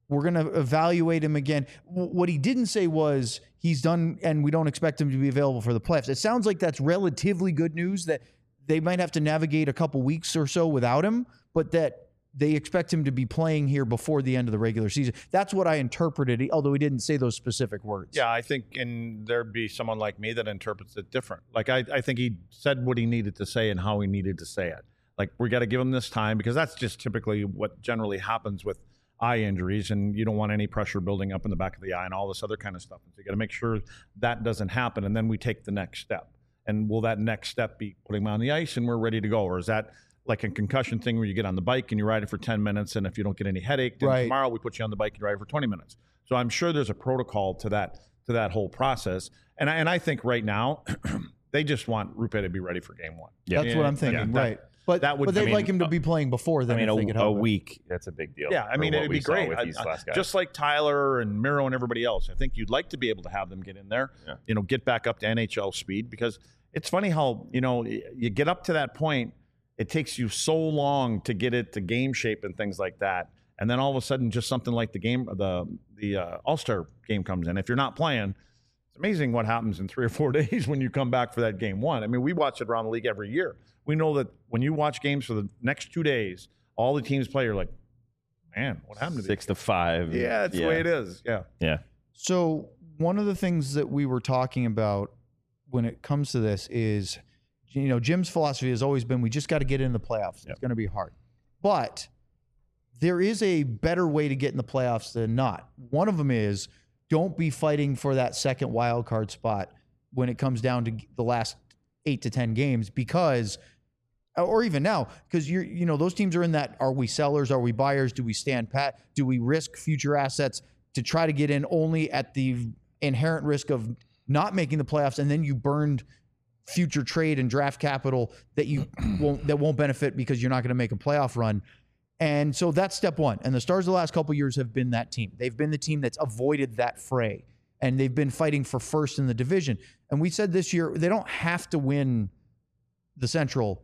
we're going to evaluate him again. W- what he didn't say was he's done and we don't expect him to be available for the playoffs. It sounds like that's relatively good news that they might have to navigate a couple weeks or so without him, but that they expect him to be playing here before the end of the regular season. That's what I interpreted, although he didn't say those specific words. Yeah, I think, and there'd be someone like me that interprets it different. Like, I, I think he said what he needed to say and how he needed to say it. Like, we got to give him this time because that's just typically what generally happens with eye injuries, and you don't want any pressure building up in the back of the eye and all this other kind of stuff. So you got to make sure that doesn't happen, and then we take the next step. And will that next step be putting him on the ice and we're ready to go? Or is that like a concussion thing where you get on the bike and you ride it for ten minutes, and if you don't get any headache, then right. tomorrow we put you on the bike and you ride it for twenty minutes. So I'm sure there's a protocol to that to that whole process. And I, and I think right now they just want Roope to be ready for game one. Yeah. That's what I'm thinking, that- right. But, that would- but they'd I mean, like him to be playing before then I mean, if a, they could a help it. week, that's a big deal. Yeah, I for mean, what it'd we be saw great. with I- these I- last guys. just like Tyler and Miro and everybody else. I think you'd like to be able to have them get in there, Yeah. you know, get back up to N H L speed, because it's funny how, you know, y- you get up to that point, it takes you so long to get it to game shape and things like that. And then all of a sudden, just something like the game, the the uh, All-Star game comes in. If you're not playing, it's amazing what happens in three or four days when you come back for that game one. I mean, we watch it around the league every year. We know that when you watch games for the next two days, all the teams play, you're like, man, what happened to these? Six to five. Yeah, that's the way it is. Yeah. Yeah. So one of the things that we were talking about when it comes to this is, you know, Jim's philosophy has always been we just got to get in the playoffs. Yep. It's going to be hard. But there is a better way to get in the playoffs than not. One of them is don't be fighting for that second wild card spot when it comes down to the last eight to ten games, because or even now, because you're, you know, those teams are in that, are we sellers? Are we buyers? Do we stand pat? Do we risk future assets to try to get in only at the inherent risk of not making the playoffs? And then you burned future trade and draft capital that you won't, that won't benefit because you're not going to make a playoff run. And so that's step one. And the Stars the last couple of years have been that team. They've been the team that's avoided that fray, and they've been fighting for first in the division. And we said this year, they don't have to win the Central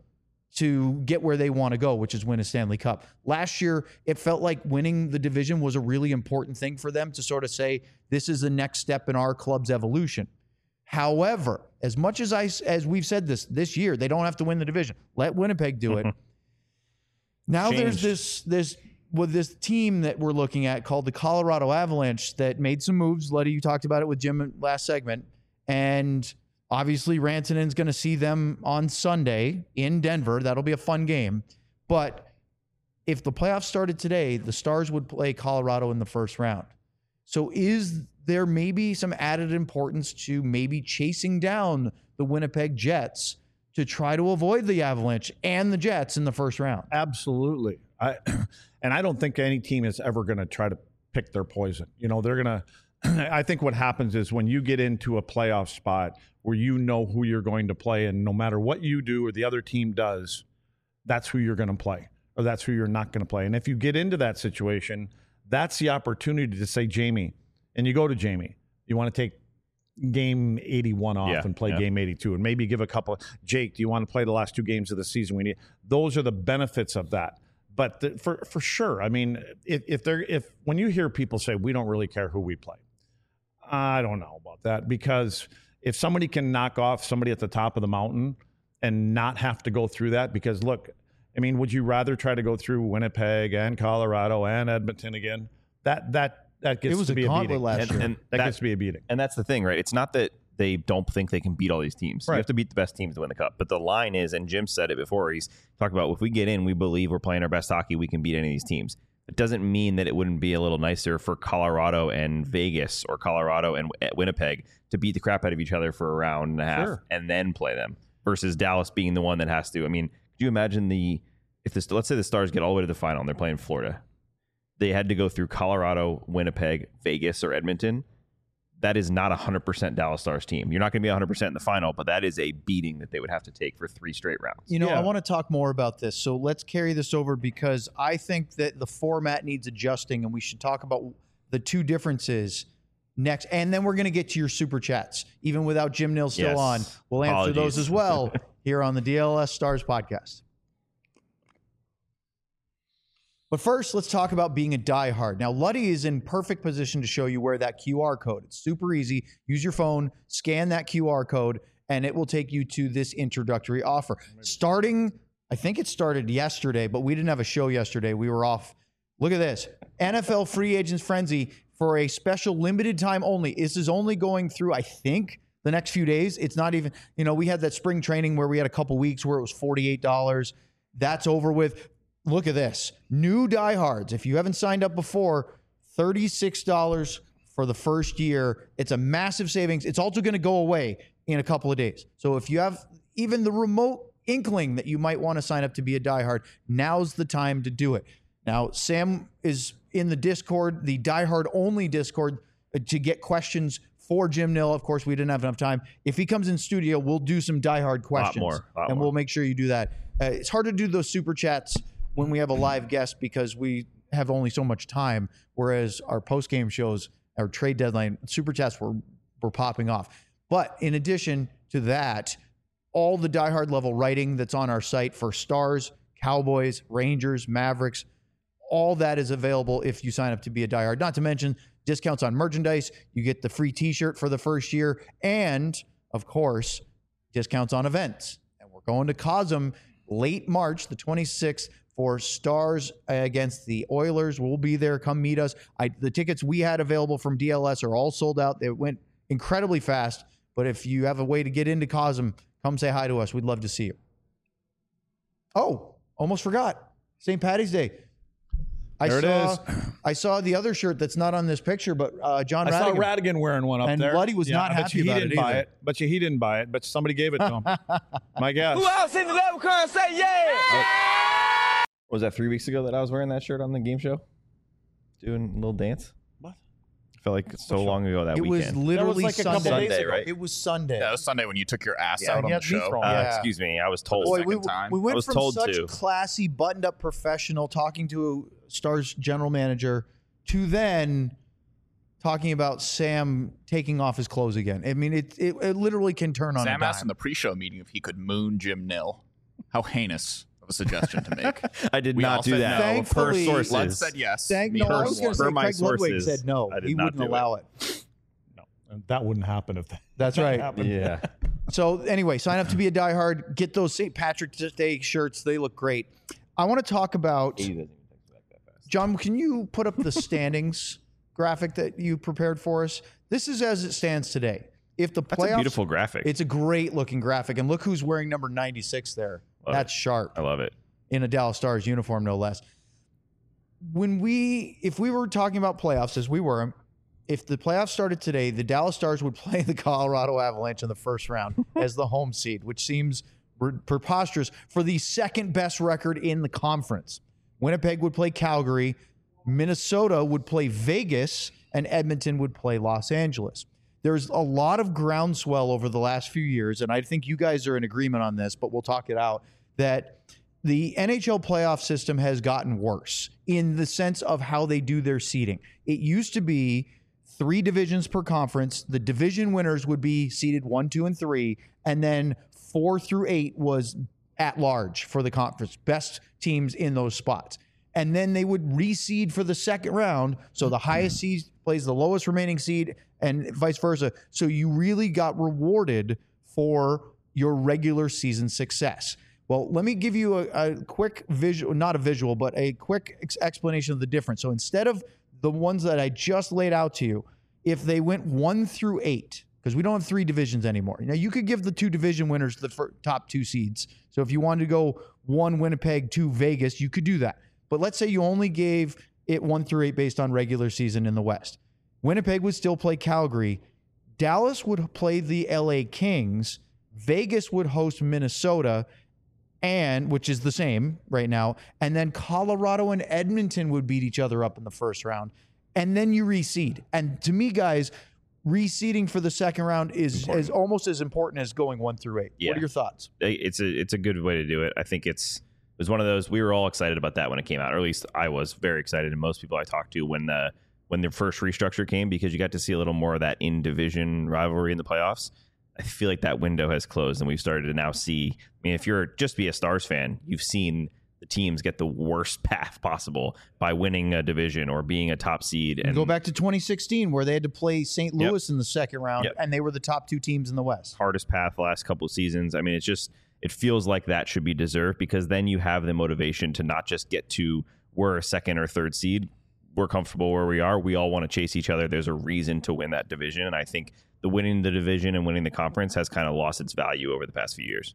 to get where they want to go, which is win a Stanley Cup. Last year, it felt like winning the division was a really important thing for them to sort of say, this is the next step in our club's evolution. However, as much as I, as we've said this, this year, they don't have to win the division. Let Winnipeg do it. Now Changed. there's this, this, with this team that we're looking at called the Colorado Avalanche that made some moves. Letty, you talked about it with Jim last segment. And obviously Rantanen's going to see them on Sunday in Denver. That'll be a fun game. But if the playoffs started today, the Stars would play Colorado in the first round. So is there maybe some added importance to maybe chasing down the Winnipeg Jets to try to avoid the Avalanche and the Jets in the first round? Absolutely. I, and I don't think any team is ever going to try to pick their poison. You know, they're going to, I think what happens is when you get into a playoff spot where you know who you're going to play, and no matter what you do or the other team does, that's who you're going to play, or that's who you're not going to play. And if you get into that situation, that's the opportunity to say, Jamie, and you go to Jamie, you want to take game eighty-one off Yeah, and play yeah. game eighty-two, and maybe give a couple. Jake, do you want to play the last two games of the season? We need those are the benefits of that. But the, for for sure, I mean, if if they're if when you hear people say we don't really care who we play, I don't know about that, because if somebody can knock off somebody at the top of the mountain and not have to go through that, because look, I mean, would you rather try to go through Winnipeg and Colorado and Edmonton again? That that that gets It was to a be a gauntlet beating. last And, year. and that, that, gets to be a beating. and that's the thing, right? It's not that they don't think they can beat all these teams. Right. You have to beat the best teams to win the cup. But the line is, and Jim said it before, he's talked about if we get in, we believe we're playing our best hockey, we can beat any of these teams. It doesn't mean that it wouldn't be a little nicer for Colorado and Vegas or Colorado and Winnipeg to beat the crap out of each other for a round and a half Sure. and then play them versus Dallas being the one that has to. I mean, could you imagine the if this let's say the Stars get all the way to the final and they're playing Florida. They had to go through Colorado, Winnipeg, Vegas, or Edmonton. That is not a one hundred percent Dallas Stars team. You're not going to be one hundred percent in the final, but that is a beating that they would have to take for three straight rounds. You know, Yeah. I want to talk more about this. So let's carry this over, because I think that the format needs adjusting, and we should talk about the two differences next. And then we're going to get to your super chats. Even without Jim Nill still Yes. on, we'll answer those Apologies. as well here on the D L S Stars podcast. But first, let's talk about being a diehard. Now, Luddy is in perfect position to show you where that Q R code. It's super easy. Use your phone, scan that Q R code, and it will take you to this introductory offer. Starting, I think it started yesterday, but we didn't have a show yesterday. We were off. Look at this. N F L Free Agents Frenzy for a special limited time only. This is only going through, I think, the next few days. It's not even, you know, we had that spring training where we had a couple weeks where it was forty-eight dollars. That's over with. Look at this. New diehards. If you haven't signed up before, thirty-six dollars for the first year. It's a massive savings. It's also going to go away in a couple of days. So if you have even the remote inkling that you might want to sign up to be a diehard, now's the time to do it. Now, Sam is in the Discord, the diehard only Discord, to get questions for Jim Nill. Of course, we didn't have enough time. If he comes in studio, we'll do some diehard questions. Lot more, lot and more. We'll make sure you do that. Uh, it's hard to do those super chats when we have a live guest because we have only so much time, whereas our post-game shows, our trade deadline, super chats were, were popping off. But in addition to that, all the diehard level writing that's on our site for Stars, Cowboys, Rangers, Mavericks, all that is available if you sign up to be a diehard. Not to mention discounts on merchandise. You get the free t-shirt for the first year. And, of course, discounts on events. And we're going to Cosm late March, the twenty-sixth, for Stars against the Oilers. We'll be there. Come meet us. I, the tickets we had available from D L S are all sold out. They went incredibly fast. But if you have a way to get into Cosm, come say hi to us. We'd love to see you. Oh, almost forgot. Saint Patty's Day. I There it saw, is. I saw the other shirt that's not on this picture, but uh, John I Radigan. saw Radigan wearing one up And there. Luddy was not I bet happy you he about didn't it buy either. it. But you he didn't buy it, but somebody gave it to him. My guess. Who else in the leprechaun say yeah? Was that three weeks ago that I was wearing that shirt on the game show? Doing a little dance? What? I felt like so long ago that It was weekend. literally like a couple Sunday. days ago. right? It was Sunday. Yeah, it was Sunday when you took your ass Yeah, out on he the had beef show. rolls. Uh, Yeah. Excuse me, I was told. Boy, second we, time. we I went was from told such to. classy, buttoned-up professional talking to a Stars general manager to then talking about Sam taking off his clothes again. I mean, it it, it literally can turn on a Sam dime. asked in the pre-show meeting if he could moon Jim Nill. How heinous of a suggestion to make. I did We all not do said that. no. Per Thankfully- sources. Lud said yes. Thank, Me no, I per was going to per say my Craig Ludwig sources, said no. I did He not wouldn't do it. allow it. No, and that wouldn't happen if that. That's that right. happened. Yeah. So anyway, sign up to be a diehard. Get those Saint Patrick's Day shirts. They look great. I want to talk about, John, can you put up the standings graphic that you prepared for us? This is as it stands today. If the That's playoffs, a beautiful graphic. it's a great looking graphic. And look who's wearing number ninety-six there. Love That's it. sharp I love it. in a Dallas Stars uniform, no less. When we, if we were talking about playoffs as we were, if the playoffs started today, the Dallas Stars would play the Colorado Avalanche in the first round as the home seed, which seems re- preposterous for the second best record in the conference. Winnipeg would play Calgary, Minnesota would play Vegas, and Edmonton would play Los Angeles. There's a lot of groundswell over the last few years, and I think you guys are in agreement on this, but we'll talk it out, that the N H L playoff system has gotten worse in the sense of how they do their seeding. It used to be three divisions per conference. The division winners would be seeded one, two, and three, and then four through eight was at large for the conference, best teams in those spots. And then they would reseed for the second round. So the highest seed plays the lowest remaining seed and vice versa. So you really got rewarded for your regular season success. Well, let me give you a, a quick visual, not a visual, but a quick ex- explanation of the difference. So instead of the ones that I just laid out to you, if they went one through eight, because we don't have three divisions anymore. Now, you could give the two division winners the fir- top two seeds. So if you wanted to go one Winnipeg, two Vegas, you could do that. But let's say you only gave it one through eight based on regular season in the West. Winnipeg would still play Calgary. Dallas would play the L A Kings. Vegas would host Minnesota, and which is the same right now. And then Colorado and Edmonton would beat each other up in the first round. And then you reseed. And to me, guys, reseeding for the second round is, is almost as important as going one through eight. Yeah. What are your thoughts? It's a it's a good way to do it. I think it's it was one of those, we were all excited about that when it came out, or at least I was very excited, and most people I talked to when the when the first restructure came, because you got to see a little more of that in division rivalry in the playoffs. I feel like that window has closed, and we've started to now see. I mean, if you're just be a Stars fan, you've seen the teams get the worst path possible by winning a division or being a top seed. And go back to twenty sixteen where they had to play Saint Louis yep. in the second round, yep. and they were the top two teams in the West. Hardest path the last couple of seasons. I mean, it's just, it feels like that should be deserved, because then you have the motivation to not just get to, we're a second or third seed. We're comfortable where we are. We all want to chase each other. There's a reason to win that division. And I think the winning the division and winning the conference has kind of lost its value over the past few years.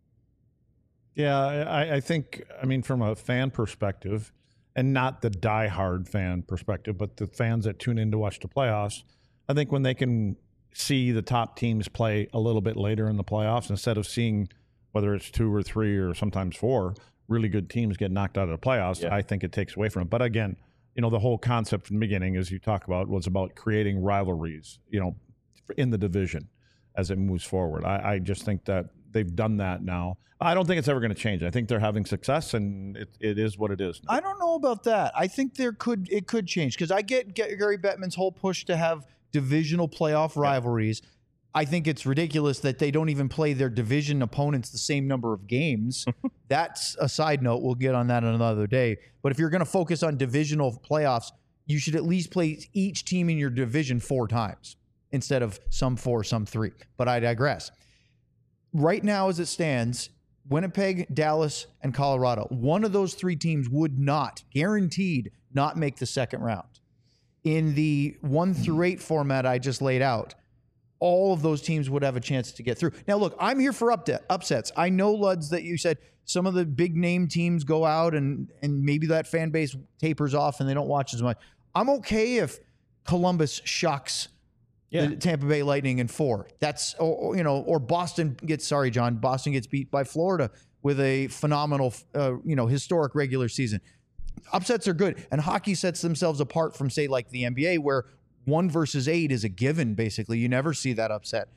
Yeah, I, I think, I mean, from a fan perspective, and not the diehard fan perspective, but the fans that tune in to watch the playoffs, I think when they can see the top teams play a little bit later in the playoffs, instead of seeing whether it's two or three or sometimes four really good teams get knocked out of the playoffs, yeah. I think it takes away from it. But again, you know, the whole concept from the beginning, as you talk about, was about creating rivalries, you know, in the division as it moves forward. I, I just think that they've done that now. I don't think it's ever going to change. I think they're having success, and it, it is what it is. I don't know about that. I think there could it could change, because I get, get Gary Bettman's whole push to have divisional playoff rivalries. Yeah. I think it's ridiculous that they don't even play their division opponents the same number of games. That's a side note. We'll get on that another day. But if you're going to focus on divisional playoffs, you should at least play each team in your division four times instead of some four, some three. But I digress. Right now, as it stands, Winnipeg, Dallas, and Colorado, one of those three teams would not, guaranteed, not make the second round. In the one through eight format I just laid out, all of those teams would have a chance to get through. Now, look, I'm here for upde- upsets. I know, Luds, that you said some of the big name teams go out and and maybe that fan base tapers off and they don't watch as much. I'm okay if Columbus shocks yeah. the Tampa Bay Lightning in four. That's, or, or, you know, or Boston gets, sorry, John, Boston gets beat by Florida with a phenomenal, uh, you know, historic regular season. Upsets are good. And hockey sets themselves apart from, say, like the N B A, where one versus eight is a given, basically. You never see that upset.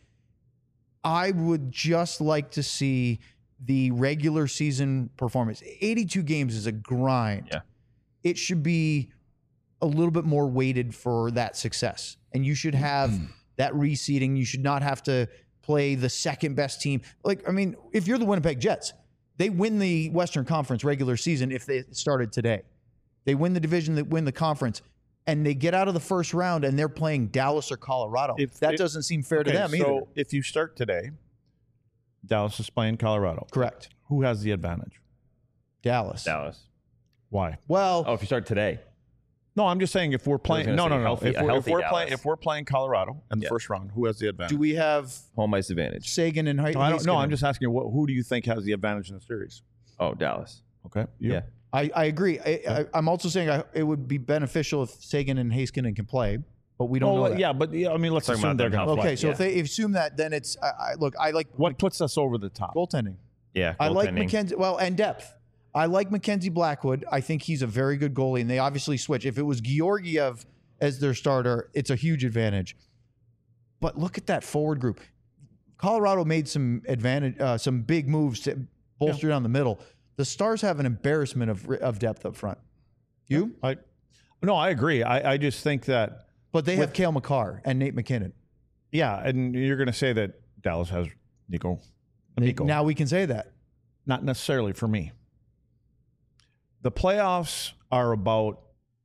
I would just like to see the regular season performance. eighty-two games is a grind. Yeah. It should be a little bit more weighted for that success. And you should have mm. that reseeding. You should not have to play the second best team. Like, I mean, if you're the Winnipeg Jets, they win the Western Conference regular season if they started today. They win the division, they win the conference. And they get out of the first round and they're playing Dallas or Colorado. If, that if, doesn't seem fair okay, to them either. So if you start today, Dallas is playing Colorado. Correct. Who has the advantage? Dallas. Dallas. Why? Well, oh, if you start today. No, I'm just saying if we're playing. No, no, no. Healthy, if we're, if we're Dallas. playing, if we're playing Colorado in the yeah. first round, who has the advantage? Do we have home ice advantage? Sagan and Height? No, I don't know. I'm just asking you, what, who do you think has the advantage in the series? Oh, Dallas. Okay. You? Yeah. I, I agree. I, I, I'm also saying I, it would be beneficial if Sagan and Heiskanen can play, but we don't oh, know that. Yeah, but yeah, I mean, let's Talking assume about they're them going to play. Okay, so yeah. if they if assume that, then it's I, I, look. I like what puts us over the top. goaltending. Yeah, I like goaltending. Mackenzie. Well, and depth. I like Mackenzie Blackwood. I think he's a very good goalie, and they obviously switch. If it was Georgiev as their starter, it's a huge advantage. But look at that forward group. Colorado made some advantage, uh, some big moves to bolster yeah. down the middle. The Stars have an embarrassment of of depth up front. You? I, no, I agree. I, I just think that. But they have Cale Makar and Nate McKinnon. Yeah, and you're going to say that Dallas has Nico. Nico. Now we can say that. Not necessarily for me. The playoffs are about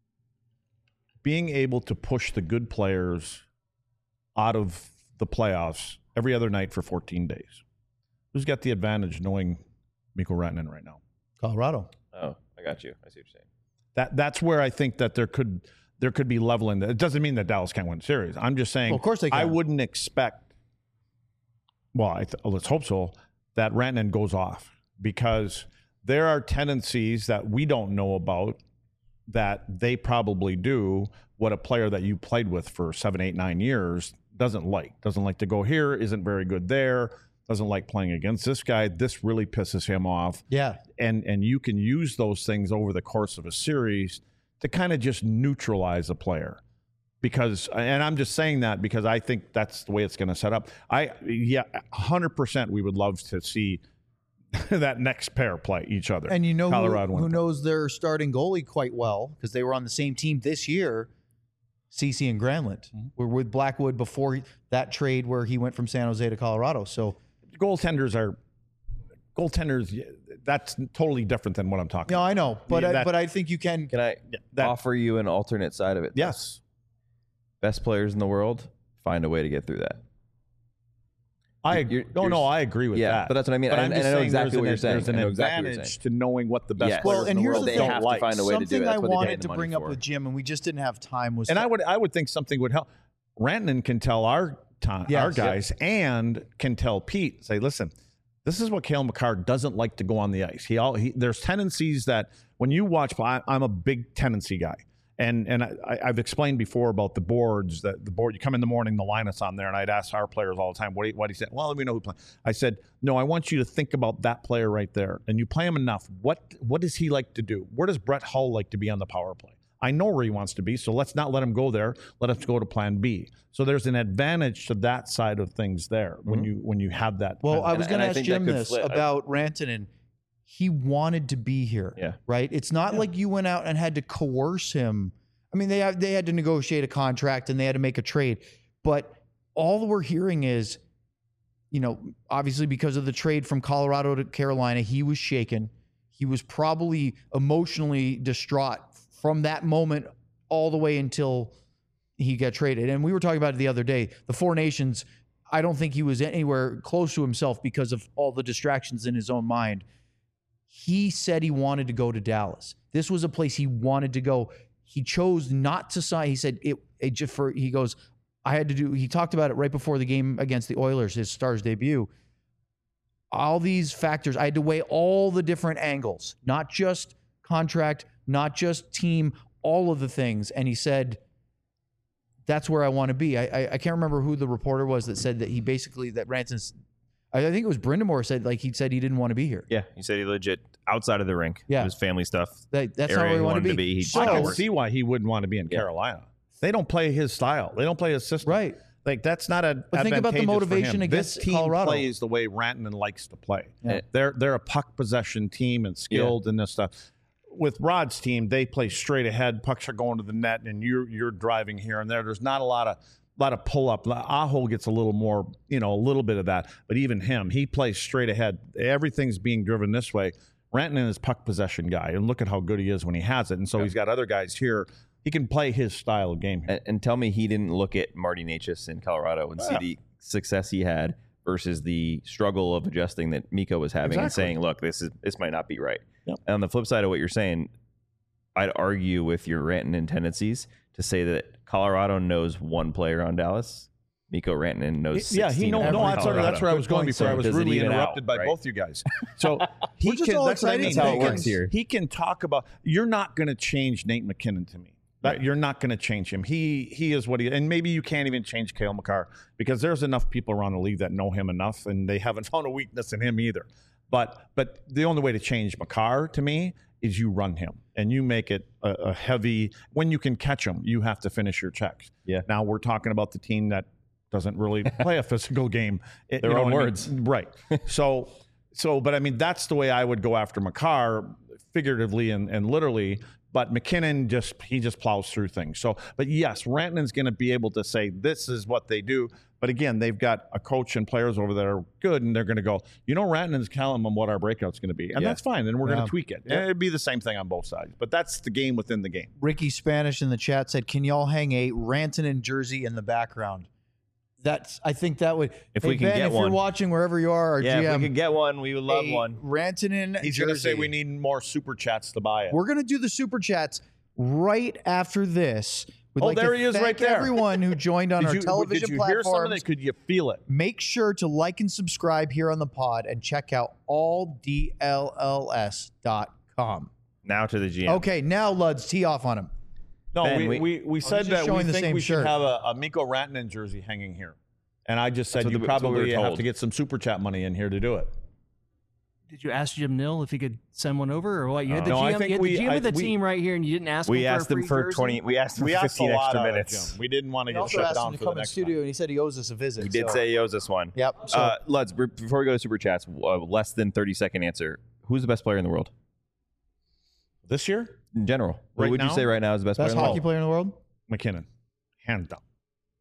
being able to push the good players out of the playoffs every other night for fourteen days. Who's got the advantage knowing Mikko Rantanen right now? Colorado. Oh, I got you. I see what you're saying. That that's where I think that there could there could be leveling. It doesn't mean that Dallas can't win the series. I'm just saying. Well, of course they can. I wouldn't expect. Well, I th- let's hope so. That Rantanen goes off, because there are tendencies that we don't know about that they probably do. What a player that you played with for seven, eight, nine years doesn't like. Doesn't like to go here. Isn't very good there. Doesn't like playing against this guy. This really pisses him off. Yeah. And and you can use those things over the course of a series to kind of just neutralize a player. Because, and I'm just saying that because I think that's the way it's going to set up. I, yeah, one hundred percent we would love to see that next pair play each other. And you know Colorado who, who knows their starting goalie quite well, because they were on the same team this year, Ceci and Granlund. Mm-hmm. Were with Blackwood before that trade where he went from San Jose to Colorado. So goaltenders are goaltenders. that's totally different than what I'm talking No, about. I know, but Yeah, I, that- but I think you can. Can I that- offer you an alternate side of it? Yes. Best players in the world, find a way to get through that. I You're- no, you're- no, I agree with yeah, that. but that's what I mean. But And- I'm and just I know saying exactly there's what an, you're saying. There's an I know exactly what you're advantage saying. to knowing what the best Yes. players Well, in and the here's world the They thing. have to like. find a way to do Something it. That's I what they pay wanted the to money bring up for. with Jim, and we just didn't have time. Was And to- I would I would think something would help. Rantanen can tell our time, Yes. our guys, and can tell Pete, say, listen, this is what Cale Makar doesn't like to go on the ice. He all he, there's tendencies that when you watch, I, I'm a big tendency guy. And and I, I've explained before about the boards, that the board, you come in the morning, the lineups on there, and I'd ask our players all the time, what do you, what do you say? Well, we know who playing. I said, no, I want you to think about that player right there. And you play him enough. What What does he like to do? Where does Brett Hull like to be on the power play? I know where he wants to be, so let's not let him go there. Let us go to plan B. So there's an advantage to that side of things there when you when you have that. Well, kind I of- was and going to I ask think that Jim could this flip. about Rantanen. He wanted to be here, Yeah. right? It's not like you went out and had to coerce him. I mean, they had, they had to negotiate a contract and they had to make a trade, but all we're hearing is, you know, obviously because of the trade from Colorado to Carolina, he was shaken. He was probably emotionally distraught from that moment all the way until he got traded. And we were talking about it the other day. The Four Nations, I don't think he was anywhere close to himself because of all the distractions in his own mind. He said he wanted to go to Dallas. This was a place he wanted to go. He chose not to sign. He said it, it just for, he goes, I had to do, he talked about it right before the game against the Oilers, his Stars debut. All these factors, I had to weigh all the different angles, not just contract, not just team, all of the things. And he said, that's where I want to be. I, I I can't remember who the reporter was that said that he basically, that Ranson's, I think it was Brindamore said, like he said he didn't want to be here. Yeah, he said he legit outside of the rink. Yeah. It was family stuff. That, that's Area not where he he wanted wanted to be. to be. He So- I can work. see why he wouldn't want to be in Yeah. Carolina. They don't play his style. They don't play his system. Right. Like that's not a. But think about the advantageous for motivation him. against this team Colorado. plays the way Rantanen likes to play. Yeah. They're they're a puck possession team and skilled in this stuff. With Rod's team, they play straight ahead. Pucks are going to the net, and you're you're driving here and there. There's not a lot of lot of pull up. Aho gets a little more, you know, a little bit of that. But even him, he plays straight ahead. Everything's being driven this way. Rantanen is puck possession guy, and look at how good he is when he has it. And so he's got other guys here. He can play his style of game here. And, and tell me he didn't look at Marty Necas in Colorado and see Yeah. the success he had versus the struggle of adjusting that Miko was having and Exactly. saying, look, this is this might not be right. Yep. And on the flip side of what you're saying, I'd argue with your Rantanen tendencies to say that Colorado knows one player on Dallas. Miko Rantanen knows Yeah, he sixteen knows. on No, that's, Colorado. that's where I was Good going point, before. I sir. was Does it rudely even interrupted out, by right? both you guys. So he We're just can. all That's what I excited mean. That's how it He can- works here. He can talk about. You're not going to change Nate McKinnon to me. That, Right. You're not going to change him. He he is what he. And maybe you can't even change Cale Makar because there's enough people around the league that know him enough, and they haven't found a weakness in him either. But but the only way to change Makar to me is you run him and you make it a, a heavy. When you can catch him, you have to finish your checks. Yeah. Now we're talking about the team that doesn't really play a physical game. It- Their you know own what I mean? words. Right. So so but I mean that's the way I would go after Makar, figuratively and, and literally. But McKinnon just he just plows through things. So, but yes, Rantanen's going to be able to say this is what they do. But again, they've got a coach and players over there are good, and they're going to go. You know, Rantanen's telling them what our breakout's going to be, and Yeah. that's fine. And we're going Yeah. to tweak it. It'd be the same thing on both sides. But that's the game within the game. Ricky Spanish in the chat said, "Can y'all hang a Rantanen jersey in the background?" That's. I think that would. If Hey, we can Ben, get if one. you're watching wherever you are, our Yeah, G M, if we could get one, we would love a one. Rantanen He's jersey. going to say we need more super chats to buy it. We're gonna do the super chats right after this. We'd Oh, like there to he is thank right there. Everyone who joined on did our you, television did you hear some of platforms. that? Could you feel it? Make sure to like and subscribe here on the pod and check out all D L L S dot com. Now to the G M. Okay, now Luds, tee off on him. No, Ben, we, we- we, we said just that we showing the think same we should shirt. have a, a Miko Rantanen jersey hanging here. And I just said That's what you the- that's what we probably were have told. to get some super chat money in here to do it. Did you ask Jim Nill if he could send one over, or what? You had the No, I G M, think you had we- the G M I- of the we- team right here, and you didn't ask We him asked for a him free for jersey? twenty. We asked him We for asked a fifteen lot extra out of minutes. Jim. We didn't want to We get also shut asked down him to for the come in the next studio, time. and he said he owes us a visit. He did so- say he owes us one. Yep. So Uh, Luds, b- before we go to super chats, uh, less than thirty second answer. Who's the best player in the world This year, in general? Right Who would now? you say right now is the best, best player in the hockey world? player in the world? McKinnon, hands down.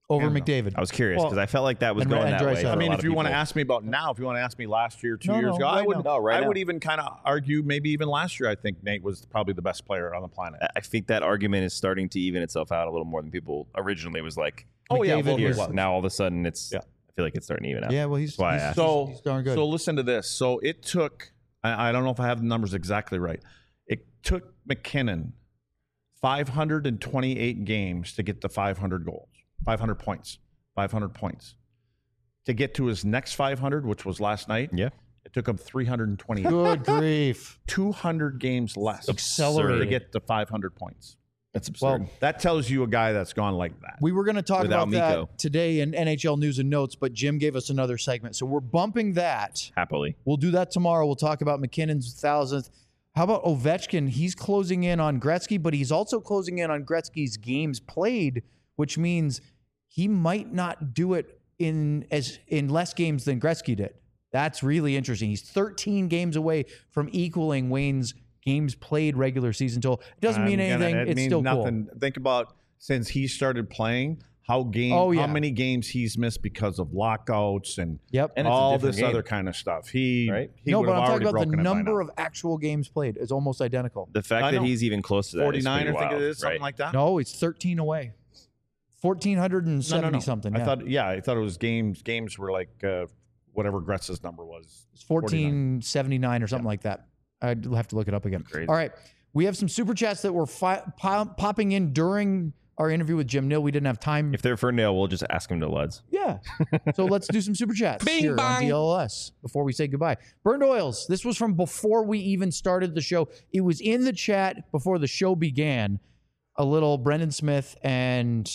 over Hands McDavid. I was curious because Well, I felt like that was and- going and that Draisaitl. way. for I I a mean, lot if of you want to people. ask me about now, if you want to ask me last year, two No, years no, ago, I right would, now. No, right I would now. even kind of argue maybe even last year, I think Nate was probably the best player on the planet. I think that argument is starting to even itself out a little more than people originally was like. Oh, yeah, McDavid well, Here. it was. Now all of a sudden it's. Yeah. I feel like it's starting to even out. Yeah, well, he's, That's why I he's, asked. So, he's darn good. so listen to this. So it took, I, I don't know if I have the numbers exactly right. It took McKinnon five hundred twenty-eight games to get to five hundred goals, five hundred points, five hundred points. To get to his next five hundred, which was last night, Yeah. it took him three hundred twenty-eight. Good grief. two hundred games less Accelerated. to get to five hundred points. That's absurd. Well, That tells you a guy that's gone like that. we were going to talk Without about Mikko. that today in N H L News and Notes, but Jim gave us another segment. So we're bumping that. Happily. We'll do that tomorrow. We'll talk about McKinnon's thousandth. How about Ovechkin? He's closing in on Gretzky, but he's also closing in on Gretzky's games played, which means he might not do it in as in less games than Gretzky did. That's really interesting. He's thirteen games away from equaling Wayne's games played regular season total. It doesn't mean I'm gonna- anything. it It's means still nothing. Think about since he started playing, how game, Oh, yeah. how many games he's missed because of lockouts and cool. Yep. And it's a all different this game. other kind of stuff. He, Right? he no, would but have I'm talking already about the broken it by number now. of actual games played is almost identical. The fact I that know. he's even close to that is forty-nine, pretty I think wild, it is, something right? like that. No, it's thirteen away. fourteen seventy no, no, no. something. I Yeah. thought, yeah, I thought it was games. Games were like uh, whatever Gretz's number was. It's fourteen seventy-nine or something like that. I'd have to look it up again. Crazy. All right. We have some super chats that were fi- pop- popping in during our interview with Jim Nill. We didn't have time. If they're for Nail, we'll just ask him to Luds. Yeah. So let's do some super chats Bing here on bong. D L S before we say goodbye. Burned Oils. This was from before we even started the show. It was in the chat before the show began. A little Brendan Smith and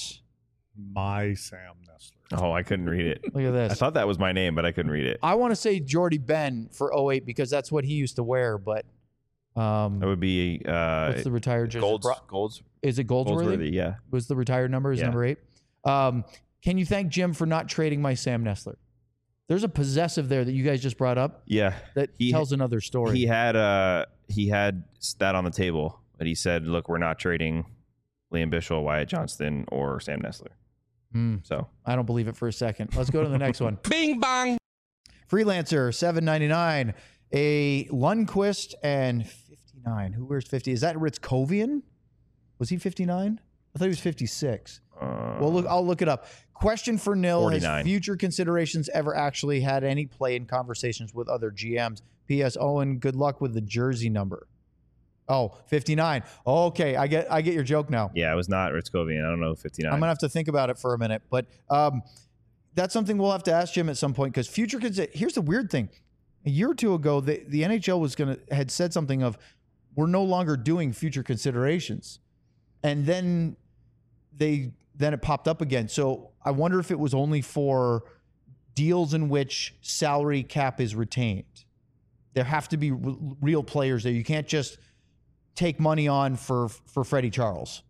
My Sam Nessler. Oh, I couldn't read it. look at this. I thought that was my name, but I couldn't read it. I want to say Jordy Ben for oh eight because that's what he used to wear, but um, That would be uh, what's the retired jersey? Golds. Bro- Golds. Is it Goldsworthy? Goldsworthy. Yeah. Was the retired number is Yeah. number eight. Um, can you thank Jim for not trading my Sam Nessler? There's a possessive there that you guys just brought up Yeah. that He- tells another story. He had uh he had that on the table, but he said, "Look, we're not trading Liam Bichel, Wyatt Johnston, or Sam Nessler." Hmm, So I don't believe it for a second. Let's go to the next one. Bing bong. Freelancer seven ninety-nine, a Lundqvist and fifty-nine. Who wears fifty? Is that Ritzkovian? Was he fifty-nine? I thought he was fifty-six. uh, Well, look, I'll look it up. Question for Nil: Has forty-nine. future considerations ever actually had any play in conversations with other G Ms? P S. Owen, good luck with the jersey number. Oh, fifty-nine. Okay, I get I get your joke now. yeah, it was not Ritzkovian. I don't know fifty-nine. I'm gonna have to think about it for a minute, but um, that's something we'll have to ask Jim at some point because future consi- Here's the weird thing: a year or two ago, the, the N H L was gonna had said something of we're no longer doing future considerations, and then they then it popped up again. So I wonder if it was only for deals in which salary cap is retained. There have to be r- real players there. You can't just take money on for for Freddie Charles.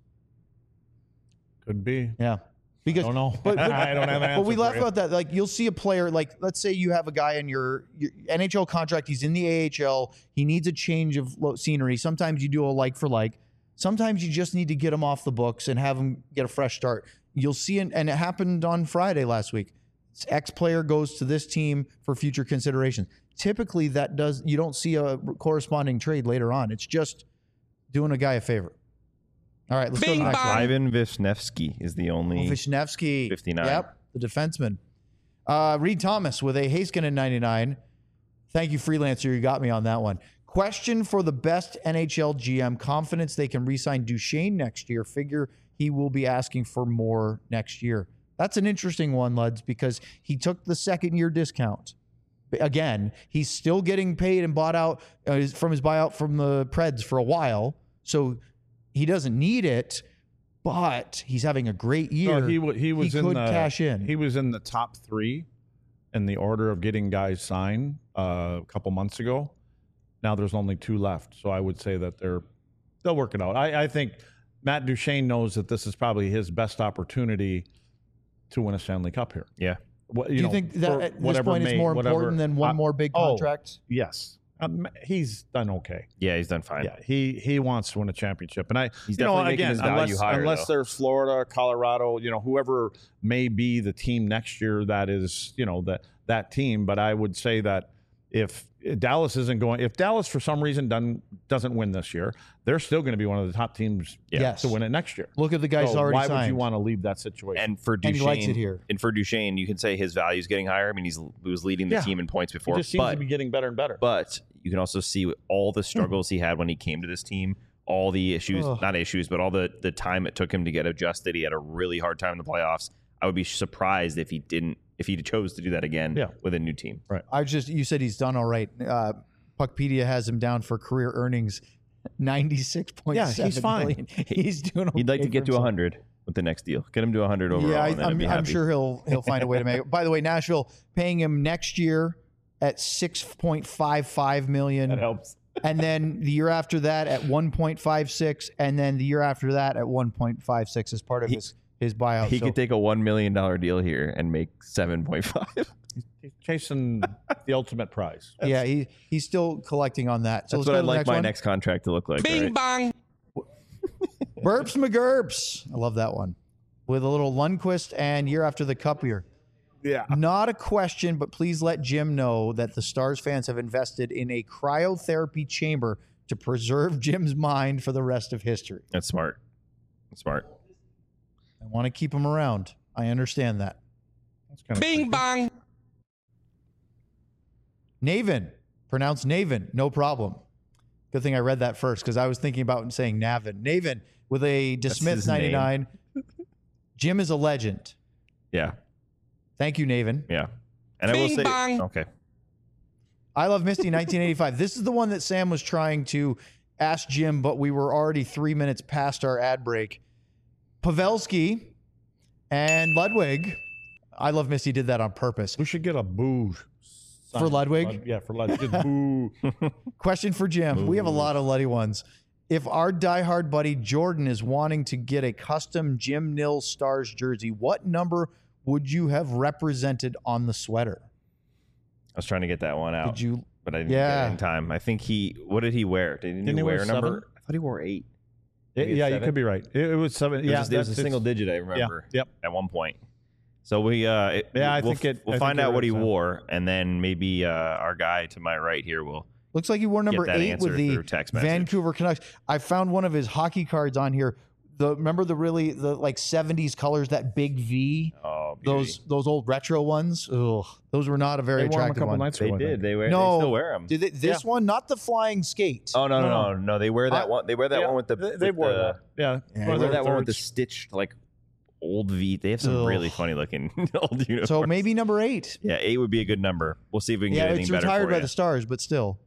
Could be. Yeah. Because I don't know. But, but, I don't have an but we answer laugh for you. about that. Like you'll see a player, like let's say you have a guy in your, your N H L contract. He's in the A H L. He needs a change of lo- scenery. Sometimes you do a like for like. Sometimes you just need to get him off the books and have him get a fresh start. You'll see, it, and it happened on Friday last week. X player goes to this team for future consideration. Typically, that does you don't see a corresponding trade later on. It's just doing a guy a favor. All right, let's go to Bing the next bong. one. Ivan Vishnevsky is the only. Oh, Vishnevsky. fifty-nine. Yep, the defenseman. Uh, Reed Thomas with a Heiskanen ninety-nine. Thank you, Freelancer. You got me on that one. Question for the best N H L G M. Confidence they can re-sign Duchesne next year. Figure he will be asking for more next year. That's an interesting one, Luds, because he took the second year discount. Again, he's still getting paid and bought out uh, from his buyout from the Preds for a while. So he doesn't need it, but he's having a great year. No, he, wa- he was he in could the, cash in. He was in the top three in the order of getting guys signed uh, a couple months ago. Now there's only two left, so I would say that they're they'll work it out. I, I think Matt Duchene knows that this is probably his best opportunity to win a Stanley Cup here. Yeah. What, Do you know, think that for at this whatever point may- is more whatever- important than one I- more big oh, contract? Yes, Um, he's done okay. Yeah, he's done fine. Yeah, he he wants to win a championship, and I, He's you know, definitely making again, his value unless, higher, unless though. there's Florida, Colorado, you know, whoever may be the team next year that is, you know, that that team. But I would say that if Dallas isn't going, if Dallas for some reason doesn't doesn't win this year, they're still going to be one of the top teams Yes. to win it next year. Look at the guys So already why signed. would you want to leave that situation? And for And Duchesne, he likes it here. And for Duchesne, you can say his value is getting higher. I mean, he's he was leading the Yeah. team in points he before, just seems but to be getting better and better. but you can also see all the struggles he had when he came to this team, all the issues, Ugh. not issues, but all the the time it took him to get adjusted. He had a really hard time in the playoffs. I would be surprised if he didn't, if he chose to do that again Yeah. with a new team. Right. I just you said he's done all right. Uh, Puckpedia has him down for career earnings ninety-six point Yeah, seven he's fine. million. He's doing. He'd like okay to get for to himself. one hundred with the next deal. Get him to one hundred overall. Yeah, I, and then I'd I'm, be I'm happy. sure he'll he'll find a way to make it. By the way, Nashville paying him next year at six point five five million. That helps. And then the year after that at one point five six, and then the year after that at one point five six as part of He- his his buyout. He So could take a one million dollar deal here and make seven point five. He's chasing the ultimate prize. yeah, he he's still collecting on that. So That's let's what go I'd to the like next my one. next contract to look like. Bing bong. Burps McGurps. I love that one. With a little Lundqvist and year after the cup year. Yeah. Not a question, but please let Jim know that the Stars fans have invested in a cryotherapy chamber to preserve Jim's mind for the rest of history. That's smart. That's smart. I want to keep him around. I understand that. That's kind of Bing bong. Navin, pronounced Navin, no problem. Good thing I read that first because I was thinking about saying Navin. Navin with a DeSmith his name. ninety-nine. Jim is a legend. Yeah. Thank you, Navin. Yeah. And I will say, okay. I love Misty nineteen eighty-five. This is the one that Sam was trying to ask Jim, but we were already three minutes past our ad break. Pavelski and Ludwig. I love Misty did that on purpose. We should get a boo sign. For Ludwig? Lud- yeah, for Ludwig. Just boo. Question for Jim. We have a lot of Luddy ones. If our diehard buddy Jordan is wanting to get a custom Jim Nils Stars jersey, what number would you have represented on the sweater? I was trying to get that one out, Did you? but I didn't Yeah. get it in time. I think he, what did he wear? Did he, Didn't he wear wear a number? seven? I thought he wore eight. Yeah, Maybe it's yeah, you seven? could be right. It, it was seven. It was, Yeah, just, it was a that's- single it's- digit, I remember. Yep. At one point. So we, uh, it, Yeah, I we'll, think it- we'll I find think out you're what he right, Sam. wore, and then maybe uh, our guy to my right here will. Looks like he wore number Get that eight answer with the through text message. Vancouver Canucks. I found one of his hockey cards on here. The remember the really the like seventies colors, that big V, Oh, beauty. those those old retro ones. Ugh, those were not a very They wore 'em a attractive couple one. nights They ago. I did. think. They wear. No, they still wear them. Did they, this one, not the flying skate? Oh no, no, No, no, no! They wear that I- one. They wear that Yeah, one with the. They, with they wore the, that. Yeah. Yeah, They One of wear the that one with the thirds. stitched like old V. They have some Ugh. really funny looking old uniforms. So maybe number eight. yeah, eight would be a good number. We'll see if we can Yeah, get anything it's better retired for by you. the Stars, but still.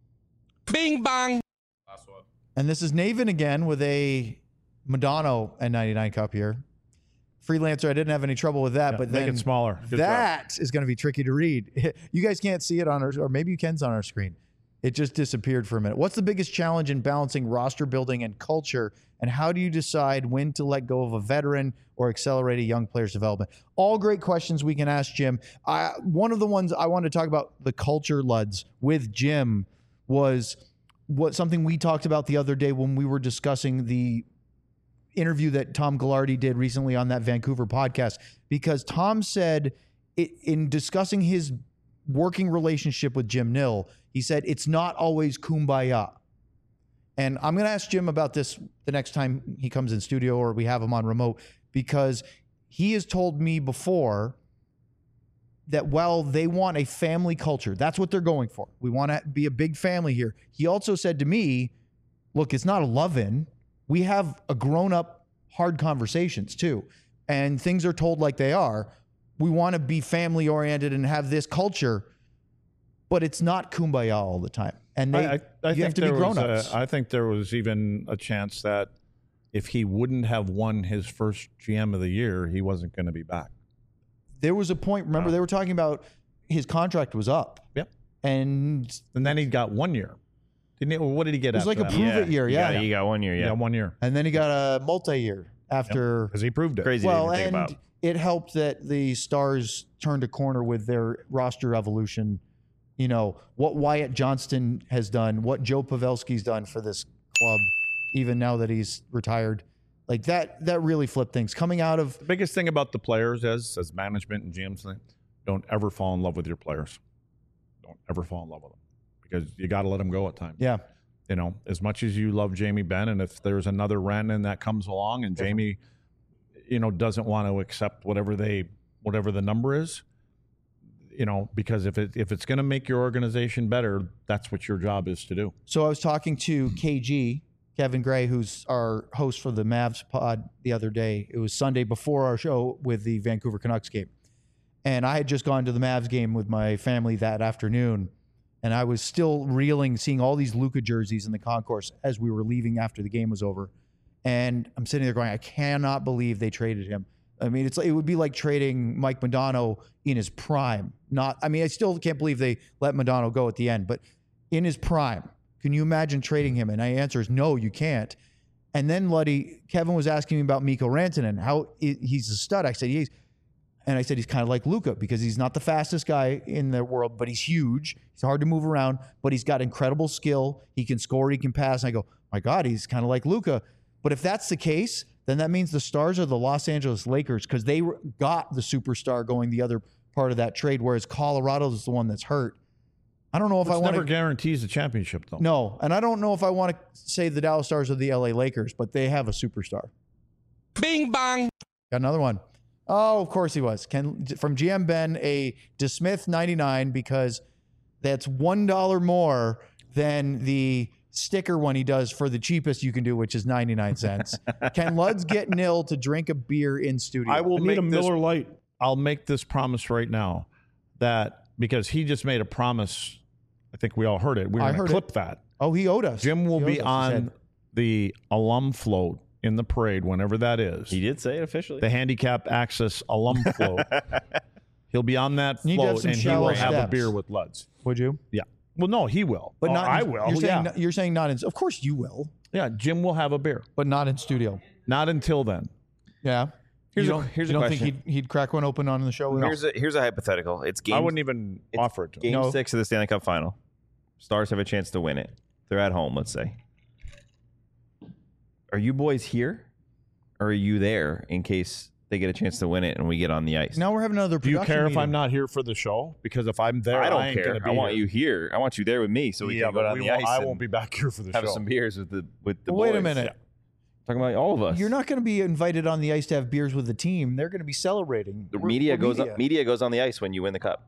Bing bong. And this is Navin again with a Madonna N ninety-nine cup here. Freelancer, I didn't have any trouble with that, Yeah, but make then it smaller. Good job. that is going to be tricky to read. You guys can't see it on our, or maybe you can on our screen. It just disappeared for a minute. What's the biggest challenge in balancing roster building and culture? And how do you decide when to let go of a veteran or accelerate a young player's development? All great questions we can ask Jim. I, one of the ones I wanted to talk about, the culture, Luds, with Jim was what something we talked about the other day when we were discussing the interview that Tom Ghilardi did recently on that Vancouver podcast, because Tom said it, in discussing his working relationship with Jim Nill, he said it's not always kumbaya. And I'm going to ask Jim about this the next time he comes in studio or we have him on remote, because he has told me before that while they want a family culture, that's what they're going for. We want to be a big family here. He also said to me, look, it's not a love-in. We have a grown-up, hard conversations too. And things are told like they are. We want to be family-oriented and have this culture, but it's not kumbaya all the time. And they, I, I, I you think have to be there was grown-ups. a- I think there was even a chance that if he wouldn't have won his first G M of the year, he wasn't going to be back. There was a point, remember, Uh, they were talking about his contract was up. Yep. And And then he got one year. Didn't he? Or what did he get? it was like a after prove that? it year, You yeah. got, you got one year. Yeah, Yeah. one year. And then he got a multi-year after. Because he proved it. Crazy Well, to even think and about. it helped that the Stars turned a corner with their roster evolution, you know, what Wyatt Johnston has done, what Joe Pavelski's done for this club, even now that he's retired. Like that, that really flipped things. Coming out of The biggest thing about the players is, as management and G Ms, don't ever fall in love with your players. Don't ever fall in love with them because you got to let them go at times. yeah, You know, as much as you love Jamie Benn, and if there's another Rantanen that comes along and Jamie, you know, doesn't want to accept whatever they, whatever the number is, you know, because if it if it's going to make your organization better, that's what your job is to do. So I was talking to K G, Kevin Gray, who's our host for the Mavs pod the other day. It was Sunday before our show with the Vancouver Canucks game. And I had just gone to the Mavs game with my family that afternoon. And I was still reeling, seeing all these Luka jerseys in the concourse as we were leaving after the game was over. And I'm sitting there going, I cannot believe they traded him. I mean, it's it would be like trading Mike Modano in his prime. Not, I mean, I still can't believe they let Modano go at the end, but in his prime, can you imagine trading him? And my answer is no, you can't. And then Luddy, Kevin was asking me about Mikko Rantanen, how i- he's a stud. I said he's, and I said he's kind of like Luka because he's not the fastest guy in the world, but he's huge. He's hard to move around, but he's got incredible skill. He can score, he can pass. And I go, my God, he's kind of like Luka. But if that's the case, then that means the Stars are the Los Angeles Lakers because they got the superstar going the other part of that trade, whereas Colorado is the one that's hurt. I don't know if Which I want never to. guarantees a championship, though. No, and I don't know if I want to say the Dallas Stars or the L A Lakers, but they have a superstar. Bing bang. Got another one. Oh, of course he was. Ken from G M Ben, a DeSmith ninety-nine because that's one dollar more than the sticker one he does for the cheapest you can do, which is ninety-nine cents. Can Luds get nil to drink a beer in studio? I will I need make a this, Miller Lite. I'll make this promise right now that because he just made a promise, I think we all heard it. We were I going heard to clip it. that. Oh, he owed us. Jim will He owes be us, he on said. the alum float in the parade, whenever that is. He did say it officially. The handicap access alum float. He'll be on that Need to have float, some and he will shallow have a steps. beer with Luds. Would you? Yeah. Well, no, he will. But Oh, not. I in- will. You're saying, yeah. you're saying not in. Of course you will, yeah. Jim will have a beer. but not in studio. Not until then. Yeah. Here's you a- don't, here's you a don't think question. he'd, he'd crack one open on the show? No. Here's a here's a hypothetical. It's game. I wouldn't even it's offer it to him. Game No. six of the Stanley Cup Final. Stars have a chance to win it. They're at home, let's say. Are you boys here, or are you there in case they get a chance to win it and we get on the ice? Now we're having another. Do you production care if meeting. I'm not here for the show? Because if I'm there, I don't ain't care. Gonna be I want here. you here. I want you there with me so we yeah, can go but on we the won't, ice. I and won't be back here for the have show. some beers with the with the Wait a boys. minute. Talking about all of us. You're not going to be invited on the ice to have beers with the team. They're going to be celebrating. The We're- media we're goes media. On, media goes on the ice when you win the cup.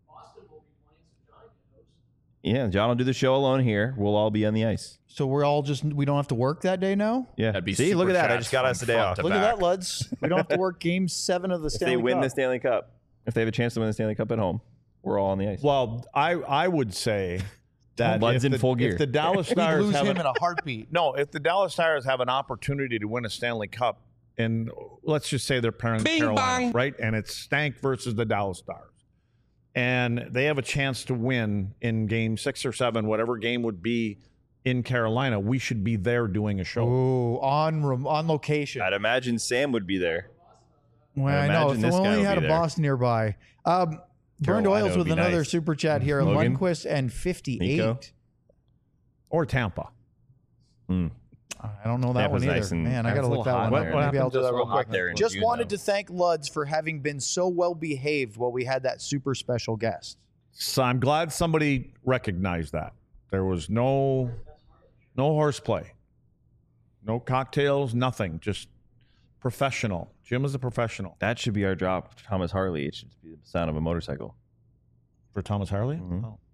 Yeah, John will do the show alone here. We'll all be on the ice. So we're all just we don't have to work that day now. Yeah. That'd be See, look super at that. I chats just got from us a day front off. to Look back. at that, Luds. We don't have to work Game Seven of the If Stanley they win Cup. the Stanley Cup, if they have a chance to win the Stanley Cup at home, we're all on the ice. Well, I I would say that Luds if in the, full gear. if the Dallas We'd Stars lose have him an, in a heartbeat. no, if the Dallas Stars have an opportunity to win a Stanley Cup, and let's just say they're pairing Bing Carolina, bang. right? And it's Stank versus the Dallas Stars, and they have a chance to win in Game Six or Seven, whatever game would be in Carolina. We should be there doing a show. Ooh, on rem- on location. I'd imagine Sam would be there. Well, I I know. imagine If this we guy only will had a be there. boss nearby. Um, Burned Carolina Oils would with be another nice. super chat here. Logan? Lundqvist and fifty-eight. Nico? Or Tampa. Hmm. I don't know that Tampa's one either. nice and- Man, I it's got to a look little that hot one there. up. Maybe I'll It's do a that little real hot quick. there in Just June, wanted though. to thank Luds for having been so well behaved while we had that super special guest. So I'm glad somebody recognized that. There was no no horseplay. No cocktails, nothing. Just professional. Jim is a professional. That should be our job. Thomas Harley. It should be the sound of a motorcycle. For Thomas Harley? Mhm. Oh.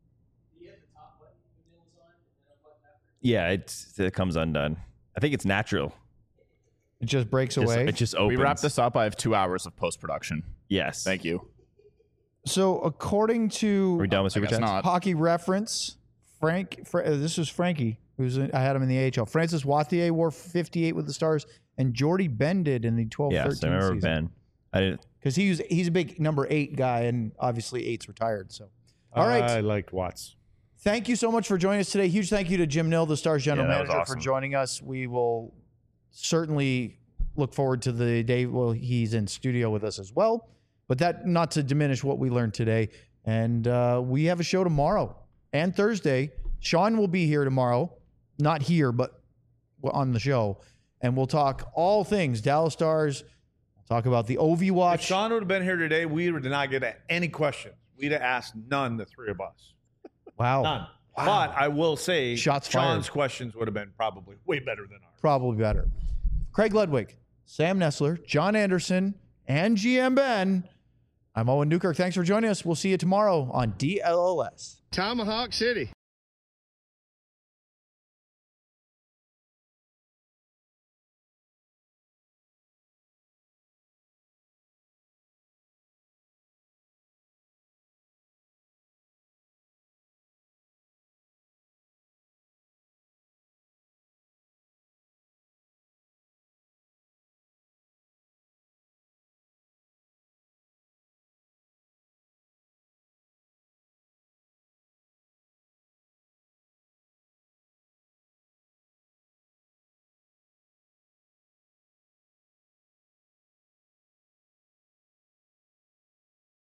Yeah, it's, it comes undone. I think it's natural. It just breaks Just- away. it just We opens. wrap this up. I have two hours of post production. Yes. Thank you. So according to Are we done with I Super guess Chats? not. Hockey Reference, Frank, Fra- uh, this was Frankie, who's in, I had him in the A H L. Francis Wathier wore fifty-eight with the Stars, and Jordy Ben did in the twelve thirteen Yes, I remember season. Ben. I didn't. Because he's he's a big number eight guy, and obviously eight's retired. So, all right. I liked Watts. Thank you so much for joining us today. Huge thank you to Jim Nill, the Stars general Yeah, that was manager, awesome. for joining us. We will certainly look forward to the day well he's in studio with us as well. But that not to diminish what we learned today. And uh, we have a show tomorrow and Thursday. Sean will be here tomorrow. Not here, but on the show. And we'll talk all things Dallas Stars. Talk about the O V watch. If Sean would have been here today, we would not get any questions. We'd have asked none, the three of us. Wow. None. Wow. But I will say, Shots fired. Sean's questions would have been probably way better than ours. Probably better. Craig Ludwig, Sam Nessler, John Anderson, and G M Ben. I'm Owen Newkirk. Thanks for joining us. We'll see you tomorrow on D L L S. Tomahawk City.